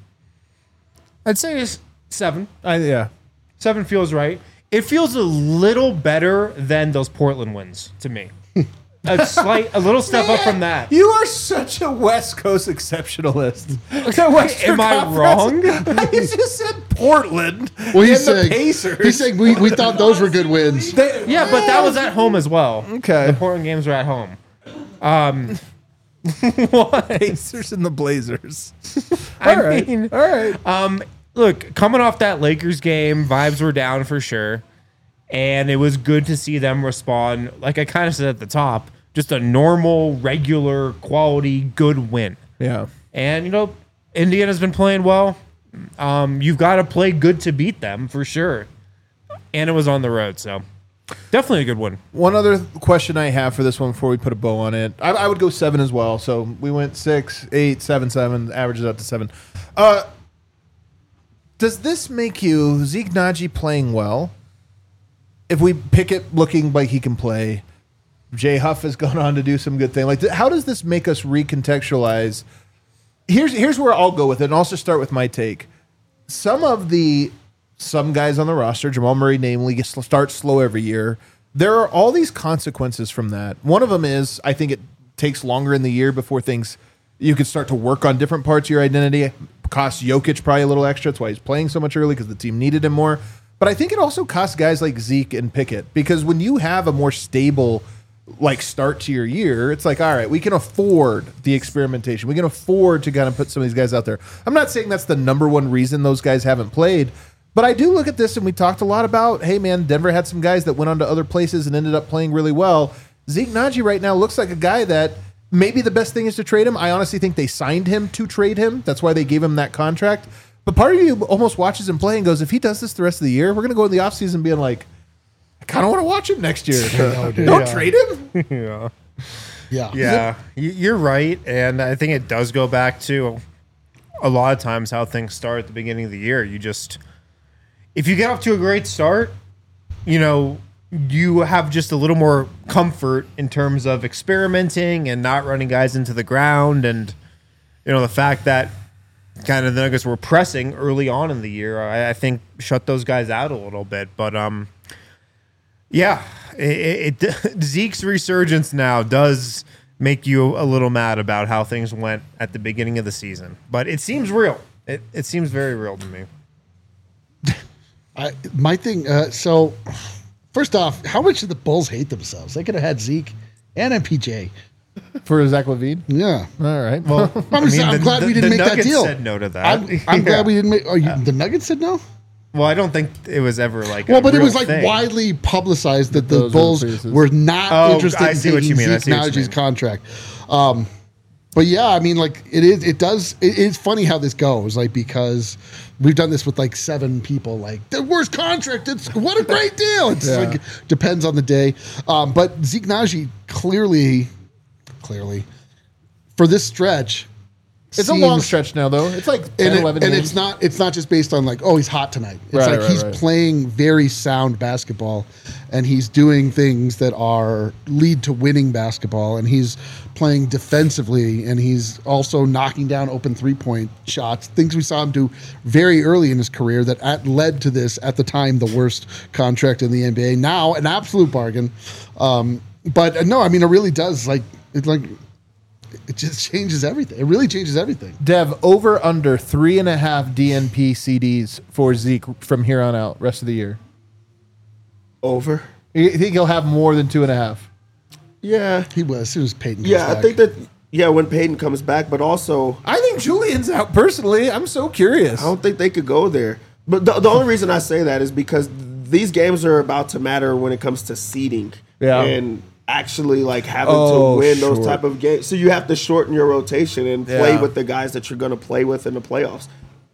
it's 7. Yeah. 7 feels right. It feels a little better than those Portland wins to me. A little step up from that. You are such a West Coast exceptionalist. Am I wrong? You just said Portland. Well, he's and the saying, Pacers. he's saying we thought those were good wins. Yeah, but that was at home as well. Okay. The Portland games were at home. Pacers and the Blazers. I All right. mean, All right. look, coming off that Lakers game, vibes were down for sure. And it was good to see them respond. Like I kind of said at the top, just a normal, regular, quality, good win. Yeah. And, Indiana's been playing well. You've got to play good to beat them for sure. And it was on the road, so definitely a good one. One other question I have for this one before we put a bow on it. I would go 7 as well. So we went 6, 8, 7, 7, averages out to 7. Does this make you, Zeke Naji playing well? If we pick it looking like he can play, Jay Huff has gone on to do some good thing. How does this make us recontextualize? Here's where I'll go with it, and I'll also start with my take. Some guys on the roster, Jamal Murray namely, starts slow every year. There are all these consequences from that. One of them is I think it takes longer in the year before you can start to work on different parts of your identity. It costs Jokic probably a little extra. That's why he's playing so much early, because the team needed him more. But I think it also costs guys like Zeke and Pickett, because when you have a more stable start to your year, it's all right, we can afford the experimentation. We can afford to kind of put some of these guys out there. I'm not saying that's the number one reason those guys haven't played, but I do look at this, and we talked a lot about, hey man, Denver had some guys that went on to other places and ended up playing really well. Zeke Naji right now looks like a guy that maybe the best thing is to trade him. I honestly think they signed him to trade him. That's why they gave him that contract. But part of you almost watches him play and goes, if he does this the rest of the year, we're going to go in the offseason being like, I kind of want to watch him next year. Don't trade him. Yeah, you're right. And I think it does go back to a lot of times how things start at the beginning of the year. If you get off to a great start, you have just a little more comfort in terms of experimenting and not running guys into the ground. And, the fact that kind of the Nuggets were pressing early on in the year, I think shut those guys out a little bit. But, Zeke's resurgence now does make you a little mad about how things went at the beginning of the season. But it seems real. It seems very real to me. My thing, so first off, how much did the Bulls hate themselves? They could have had Zeke and MPJ. For Zach LaVine? Yeah. All right. Well, I'm glad we didn't make Nuggets that deal. said no to that. I'm glad we didn't make. The Nuggets said no. Well, I don't think it was ever like. But it was thing. widely publicized that the Those Bulls were not interested in taking Zeke Najee's contract. But yeah, I mean, like it's funny how this goes, like, because we've done this with like 7 people, like the worst contract. What a great deal. It's like depends on the day. But Zeke Naji clearly for this stretch. It's a long stretch now, though. It's like 10, 11 and games. it's not just based on like, oh, he's hot tonight. It's he's playing very sound basketball, and he's doing things that lead to winning basketball, and he's playing defensively, and he's also knocking down open 3-point shots, things we saw him do very early in his career that led to this, at the time, the worst contract in the NBA. Now, an absolute bargain. But no, I mean, it really does, it just changes everything. It really changes everything. Dev, over under 3.5 DNP CDs for Zeke from here on out, rest of the year. Over. You think he'll have more than 2.5? Yeah. He will, as soon as Peyton comes back. I think that, when Peyton comes back, but also... I think Julian's out, personally. I'm so curious. I don't think they could go there. But the only reason I say that is because these games are about to matter when it comes to seeding. Yeah. And actually having to win those type of games. So you have to shorten your rotation and play with the guys that you're going to play with in the playoffs.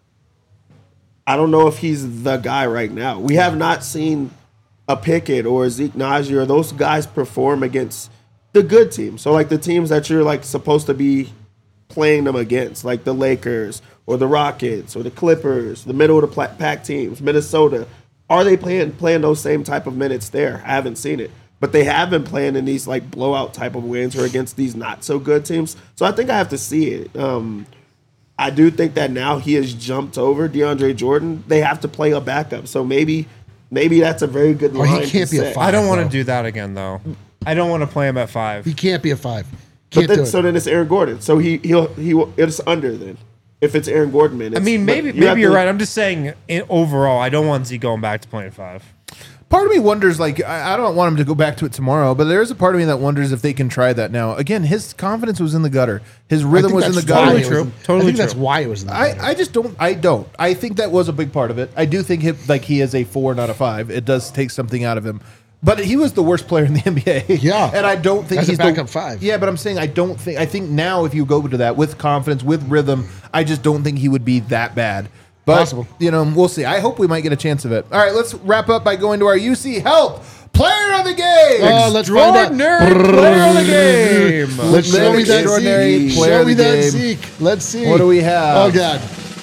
I don't know if he's the guy right now. We have not seen a Pickett or a Zeke Naji or those guys perform against the good teams. So the teams that you're supposed to be playing them against, like the Lakers or the Rockets or the Clippers, the middle of the pack teams, Minnesota. Are they playing those same type of minutes there? I haven't seen it. But they have been playing in these blowout type of wins or against these not so good teams. So I think I have to see it. I do think that now he has jumped over DeAndre Jordan. They have to play a backup. So maybe that's a very good line. He can't be a 5. I don't want to do that again, though. I don't want to play him at 5. He can't be a 5. So then it's Aaron Gordon. So it's under then. If it's Aaron Gordon minutes. I mean, maybe you're right. I'm just saying overall, I don't want Zeke going back to playing 5. Part of me wonders, I don't want him to go back to it tomorrow, but there is a part of me that wonders if they can try that now. Again, his confidence was in the gutter. His rhythm was in the gutter. I think that's why it was in the gutter. I just don't. I think that was a big part of it. I do think he is a 4, not a 5. It does take something out of him. But he was the worst player in the NBA. Yeah. And I don't think he's a backup 5. Yeah, but I'm saying I think now if you go to that with confidence, with rhythm, I just don't think he would be that bad. But, possible. We'll see. I hope we might get a chance of it. All right, let's wrap up by going to our UC Health Player of the Game. Let's find out. Player of the Game. Let's show me that Zeke. Show me that Zeke. Let's see. What do we have? Oh, God.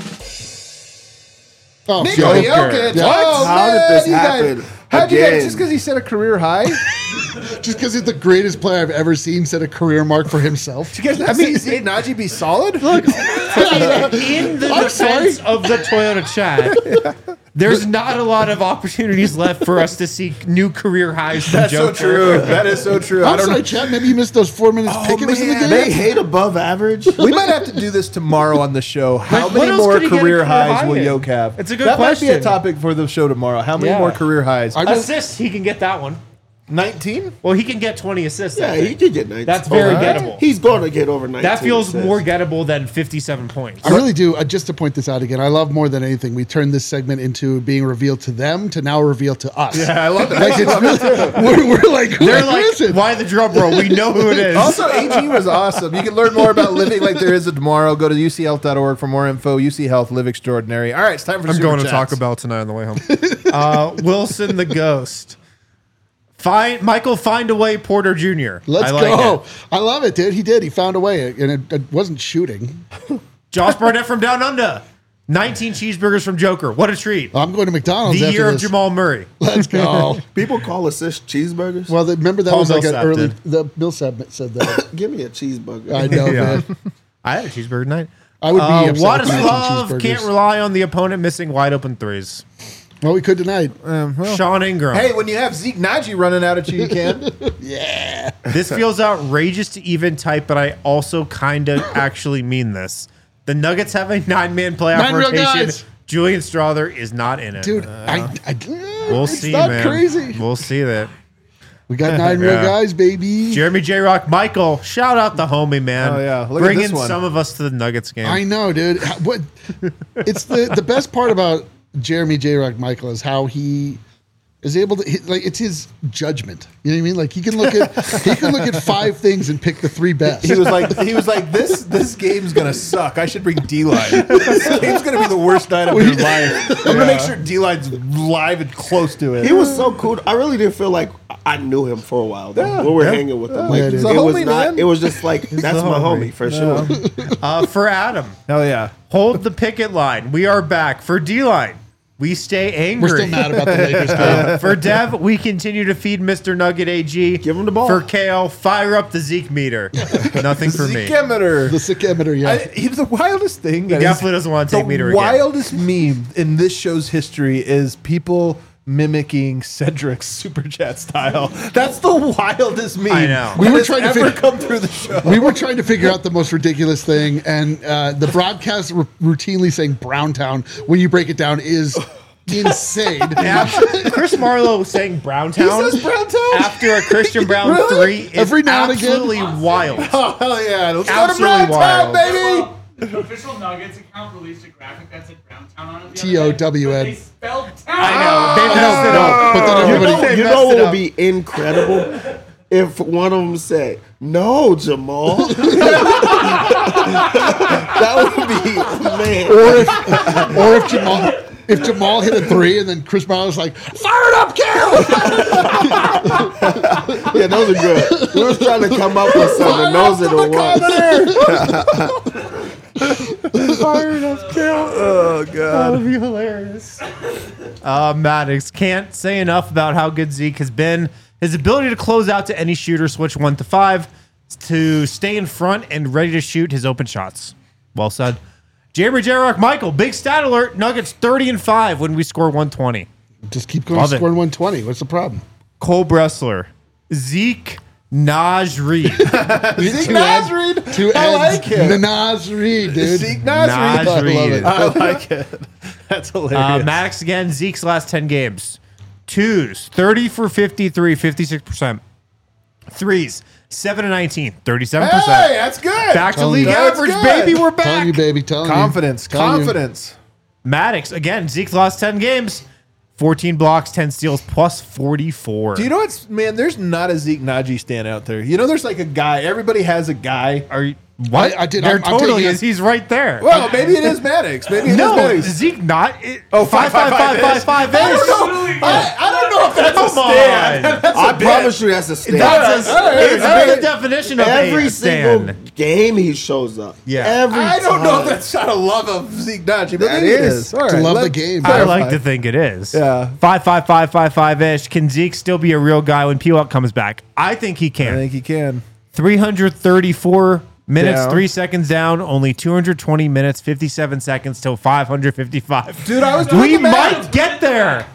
Oh, Nikola Jokic. Yeah. Oh, How did this happen? How'd you get Again. just because he set a career high? Just because he's the greatest player I've ever seen set a career mark for himself. You guys not see Zeke Naji be solid? Look, in the defense of the Toyota chat, there's not a lot of opportunities left for us to see new career highs from That's so Joker. true. That is so true. I'm sorry, Chad. Maybe you missed those 4 minutes. Pickett was in the game. They hate above average. We might have to do this tomorrow on the show. How What many else more could he get a career career highs high will in? Yoke have? It's a good That might be a question. topic for the show tomorrow. How many Yeah. more career highs? Assists, he can get that one. 19? Well, he can get 20 assists. Yeah, I he think. could get 19. That's very Alright. gettable. He's going to get over 19. That feels assists. more gettable than 57 points. I really do. Just to point this out again, I love more than anything. We turned this segment into being revealed to them to now revealed to us. Yeah, I love that. Like it's really, we're like, who They're like, is it? why the drum roll? We know who it is. Also, AG was awesome. You can learn more about living like there is a tomorrow. Go to uchealth.org for more info. UC Health, live extraordinary. All right, it's time for I'm Super going to Chats. Taco Bell tonight on the way home. Wilson the Ghost. Michael Findaway Porter Jr. Let's I like go. it. I love it, dude. He did. He found a way, and it wasn't shooting. Josh Barnett from Down Under. 19 cheeseburgers from Joker. What a treat. I'm going to McDonald's The after year of this. Jamal Murray. Let's go. People call assist cheeseburgers. Well, remember that Paul was like an Millsap early. did. The Millsap said that. Give me a cheeseburger. I know, Yeah. man. I had a cheeseburger tonight. I would be upset with 19 Wadislav cheeseburgers. can't rely on the opponent missing wide open threes. Well, we could tonight. Sean Ingram. Hey, when you have Zeke Naji running out at you, you can. Yeah. This feels outrageous to even type, but I also kind of actually mean this. The Nuggets have a 9-man playoff 9 real rotation. guys. Julian Strother is not in it. Dude, We'll it's see, not man. crazy. We'll see that. We got 9 real Yeah. guys, baby. Jeremy J. Rock Michael, shout out the homie, man. Oh, yeah. Look at Bringing this one. some of us to the Nuggets game. I know, dude. What? It's the best part about Jeremy J. Rock Michael is how he is able to like. It's his judgment. You know what I mean? Like he can look at 5 things and pick the 3 best. He was like, this game's gonna suck. I should bring D-Line. This game's gonna be the worst night of your life. I'm gonna make sure D-Line's live and close to it. He was so cool. I really did feel like I knew him for a while though, when we were hanging with him. Like, Yeah, it dude. He's a was homie, not. man. It was just like that's my homie for sure. For Adam, Hell yeah. hold the picket line. We are back. For D-Line, we stay angry. We're still mad about the Lakers game. For Dev, we continue to feed Mr. Nugget AG. Give him the ball. For Kale, fire up the Zeke meter. Nothing for me. Zeke-emeter. The sick emitter, yeah. He's the wildest thing. He definitely doesn't want to take meter The again. wildest meme in this show's history is people mimicking Cedric's super chat style. That's the wildest meme. I know. We were that trying to has ever figure- come through the show. We were trying to figure out the most ridiculous thing, and the broadcast routinely saying Browntown, when you break it down, is insane. Chris Marlowe saying Browntown He says Browntown? after a Christian Brown Really? 3 is Every now and again? absolutely wild. Oh, hell yeah. Let's go to Absolutely Browntown, wild. baby. The official Nuggets account released a graphic that said Browntown on it. T-O-W-N. They spelled town. I know. They I messed it know, up. but then everybody. You messed know it what would up. be incredible if one of them said, "No, Jamal." That would be man. Or if Jamal hit a 3 and then Chris Miles was like, fire it up, Cal! Yeah, those are good. We was trying to come up with something. Those are the ones. Oh, God. That would be hilarious. Maddox can't say enough about how good Zeke has been. His ability to close out to any shooter, switch 1 to 5, to stay in front and ready to shoot his open shots. Well said. Jeremy J. Rock Michael, big stat alert. Nuggets 30-5 when we score 120. Just keep going, Love it. scoring 120. What's the problem? Cole Bressler, Zeke Naj Reed. Zeke Nasrid. 2 I like ends. it. Nas Reed, dude. Zeke Naj Nasrid. I love Reed. it. I like it. That's hilarious. Maddox again, Zeke's last 10 games. 2s, 30 for 53, 56%. 3s, 7 and 19, 37%. Hey, that's good. Back to Telling league you. That's average, good. baby. We're Telling back. you, baby. Telling Confidence. you. Telling you. Confidence. Maddox, again, Zeke's last 10 games. 14 blocks, 10 steals, plus 44. Do you know what's, man, there's not a Zeke Naji stand out there. You know, there's like a guy. Everybody has a guy. Are you, what? I did- There I'm totally taking is. He's right there. Well, maybe it is Maddox. Maybe it is no, Maddox. Zeke not. Oh, 5, 5, 5, 5, 5 I ish. don't know. I don't know if that's Come a stand. on. That's I a bit. promise you that's a stand. That's All right, it's all right. the definition of Every a single stand. game he shows up. Yeah. Every I don't know if time. that's not a love of Zeke Naji, but That maybe it is. is. All To right, love the let's game. I clarify. like to think it is. Yeah. 5, 5, 5, 5, 5 ish. Can Zeke still be a real guy when P-Walk comes back? I think he I can. think he can. 334 minutes, Down. 3 seconds down, only 220 minutes, 57 seconds till 555. Dude, I was doing We the math. might get there.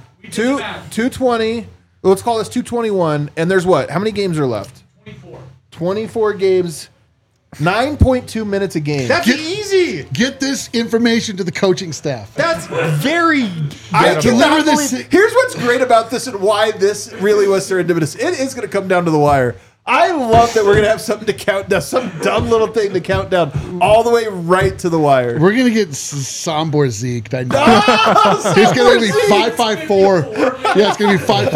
220. Let's call this 221. And there's what? How many games are left? 24. 24 games. 9.2 minutes a game. That's easy. Get this information to the coaching staff. That's very. I Deliver cannot this- believe. Here's what's great about this and why this really was serendipitous. It is going to come down to the wire. I love that we're going to have something to count down, some dumb little thing to count down all the way right to the wire. We're gonna get Sombor Zeke. I know. He's gonna be 554. Yeah, it's gonna be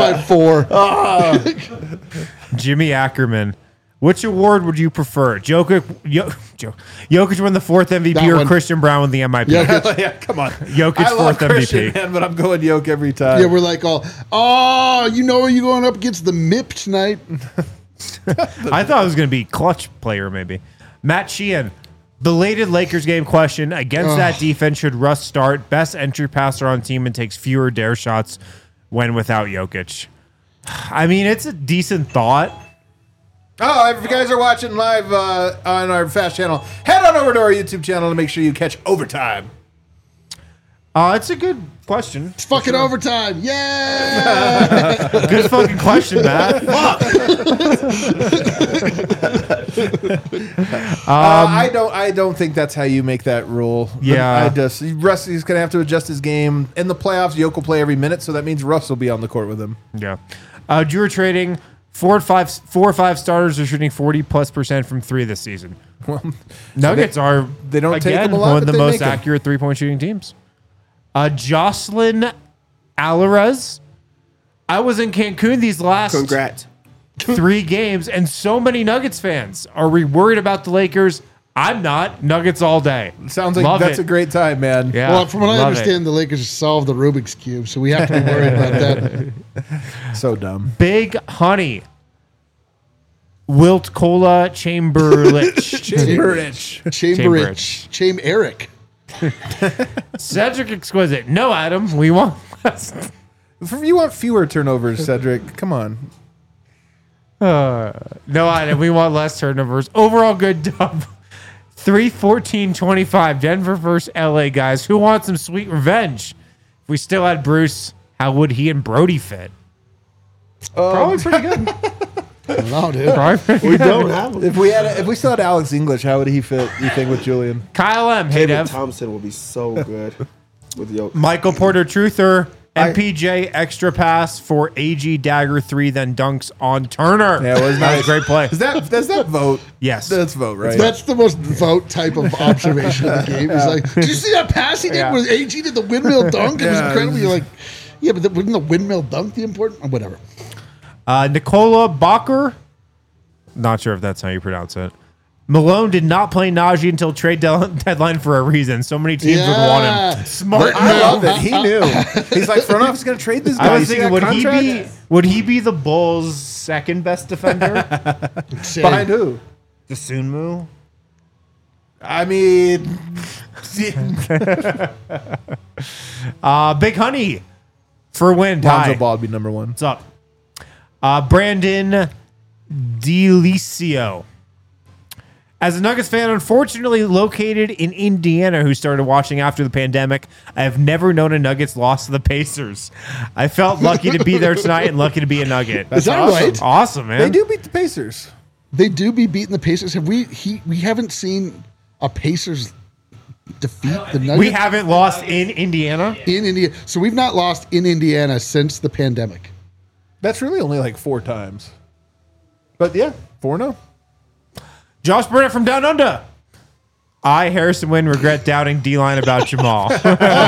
554. Jimmy Ackerman. Which award would you prefer? Jokic won the 4th MVP That or one. Christian Brown with the MVP? Yeah, Yeah, come on. Jokic's I love 4th Christian, MVP. man, but I'm going Yoke every time. yeah, we're like, oh, you know, you going up against the MIP tonight? I thought it was going to be clutch player maybe. Matt Sheehan. Belated Lakers game question. Against that defense, should Russ start? Best entry passer on team and takes fewer dare shots when without Jokic. I mean, it's a decent thought. Oh, if you guys are watching live on our Fast channel, head on over to our YouTube channel to make sure you catch Overtime. It's a good question. It's fucking overtime. Yeah. Good fucking question, Matt. I don't think that's how you make that rule. Yeah. Rusty's gonna have to adjust his game in the playoffs. Yoke will play every minute, so that means Russ will be on the court with him. Yeah. You were trading 4 or 5 starters are shooting 40+% from 3 this season. Well, Nuggets are they don't take again them a lot, one of but the they most make 'em. accurate 3-point shooting teams. Jocelyn Alvarez. I was in Cancun these last Congrats. 3 games, and so many Nuggets fans. Are we worried about the Lakers? I'm not. Nuggets all day. Sounds like Love that's it. a great time, man. Yeah. Well, from what I love understand, the Lakers solved the Rubik's Cube, so we have to be worried about that. So dumb. it. Big Honey. Wilt Cola Chamberlich. Chamberich. Cham Eric. Cedric Exquisite. No, Adam. We want less. You want fewer turnovers, Cedric. Come on. No, Adam. We want less turnovers. Overall good dub. 3-14-25. Denver versus LA, guys. Who wants some sweet revenge? If we still had Bruce, how would he and Brody fit? Probably pretty good. I don't know, dude. Probably We don't have him. If we still had Alex English, how would he fit? You think with Julian? Kyle M. Hey, David Dev. Thompson will be so good with Yoke. Michael Porter Truther. MPJ extra pass for AG Dagger 3, then dunks on Turner. Yeah, it was That nice. was a great play. Does that vote? Yes. That's vote, right? That's the most vote type of observation of the game. He's like, did you see that pass he did Yeah. where AG did the windmill dunk? It was Yeah. incredible. You're like, yeah, but wouldn't the windmill dunk the important? Whatever. Nikola Bakker. Not sure if that's how you pronounce it. Malone did not play Najee until trade deadline for a reason. So many teams would want him. Smart I move. love it. He knew. He's like, front office going to trade this guy. I was You see thinking, that contract? would he be the Bulls' second best defender? Behind who? The Sunmu? I mean, Big Honey for win. Lonzo Hi. Ball would be number 1. What's up? Brandon Delicio. As a Nuggets fan, unfortunately located in Indiana, who started watching after the pandemic, I have never known a Nuggets loss to the Pacers. I felt lucky to be there tonight and lucky to be a Nugget. Is that awesome. right? Awesome, man. They do beat the Pacers. They do be beating the Pacers. Have we haven't seen a Pacers defeat the Nuggets We haven't lost in Indiana. in Indiana. So we've not lost in Indiana since the pandemic. That's really only like 4 times. But yeah, 4-0. Josh Burnett from Down Under. I, Harrison Wynn, regret doubting D-line about Jamal. He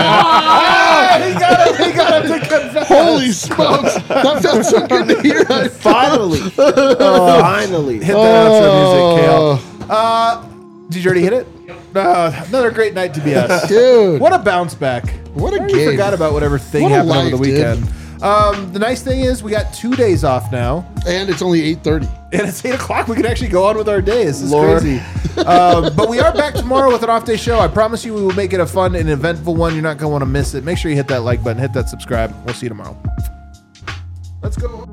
got him to confess. Holy smokes. That felt so good to hear. Finally. Finally. Hit that outro music, Kale. Did you already hit it? Another great night to be us. Dude. What a bounce back. What a I game. forgot about whatever thing What a happened over the life, dude. weekend. The nice thing is we got 2 days off now. And it's only 8:30. And it's 8 o'clock. We can actually go on with our day. This is Lord. crazy. But we are back tomorrow with an off-day show. I promise you we will make it a fun and eventful one. You're not going to want to miss it. Make sure you hit that like button. Hit that subscribe. We'll see you tomorrow. Let's go.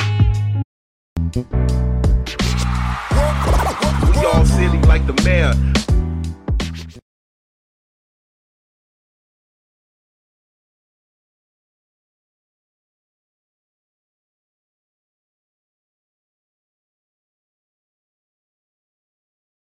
We all silly like the mayor.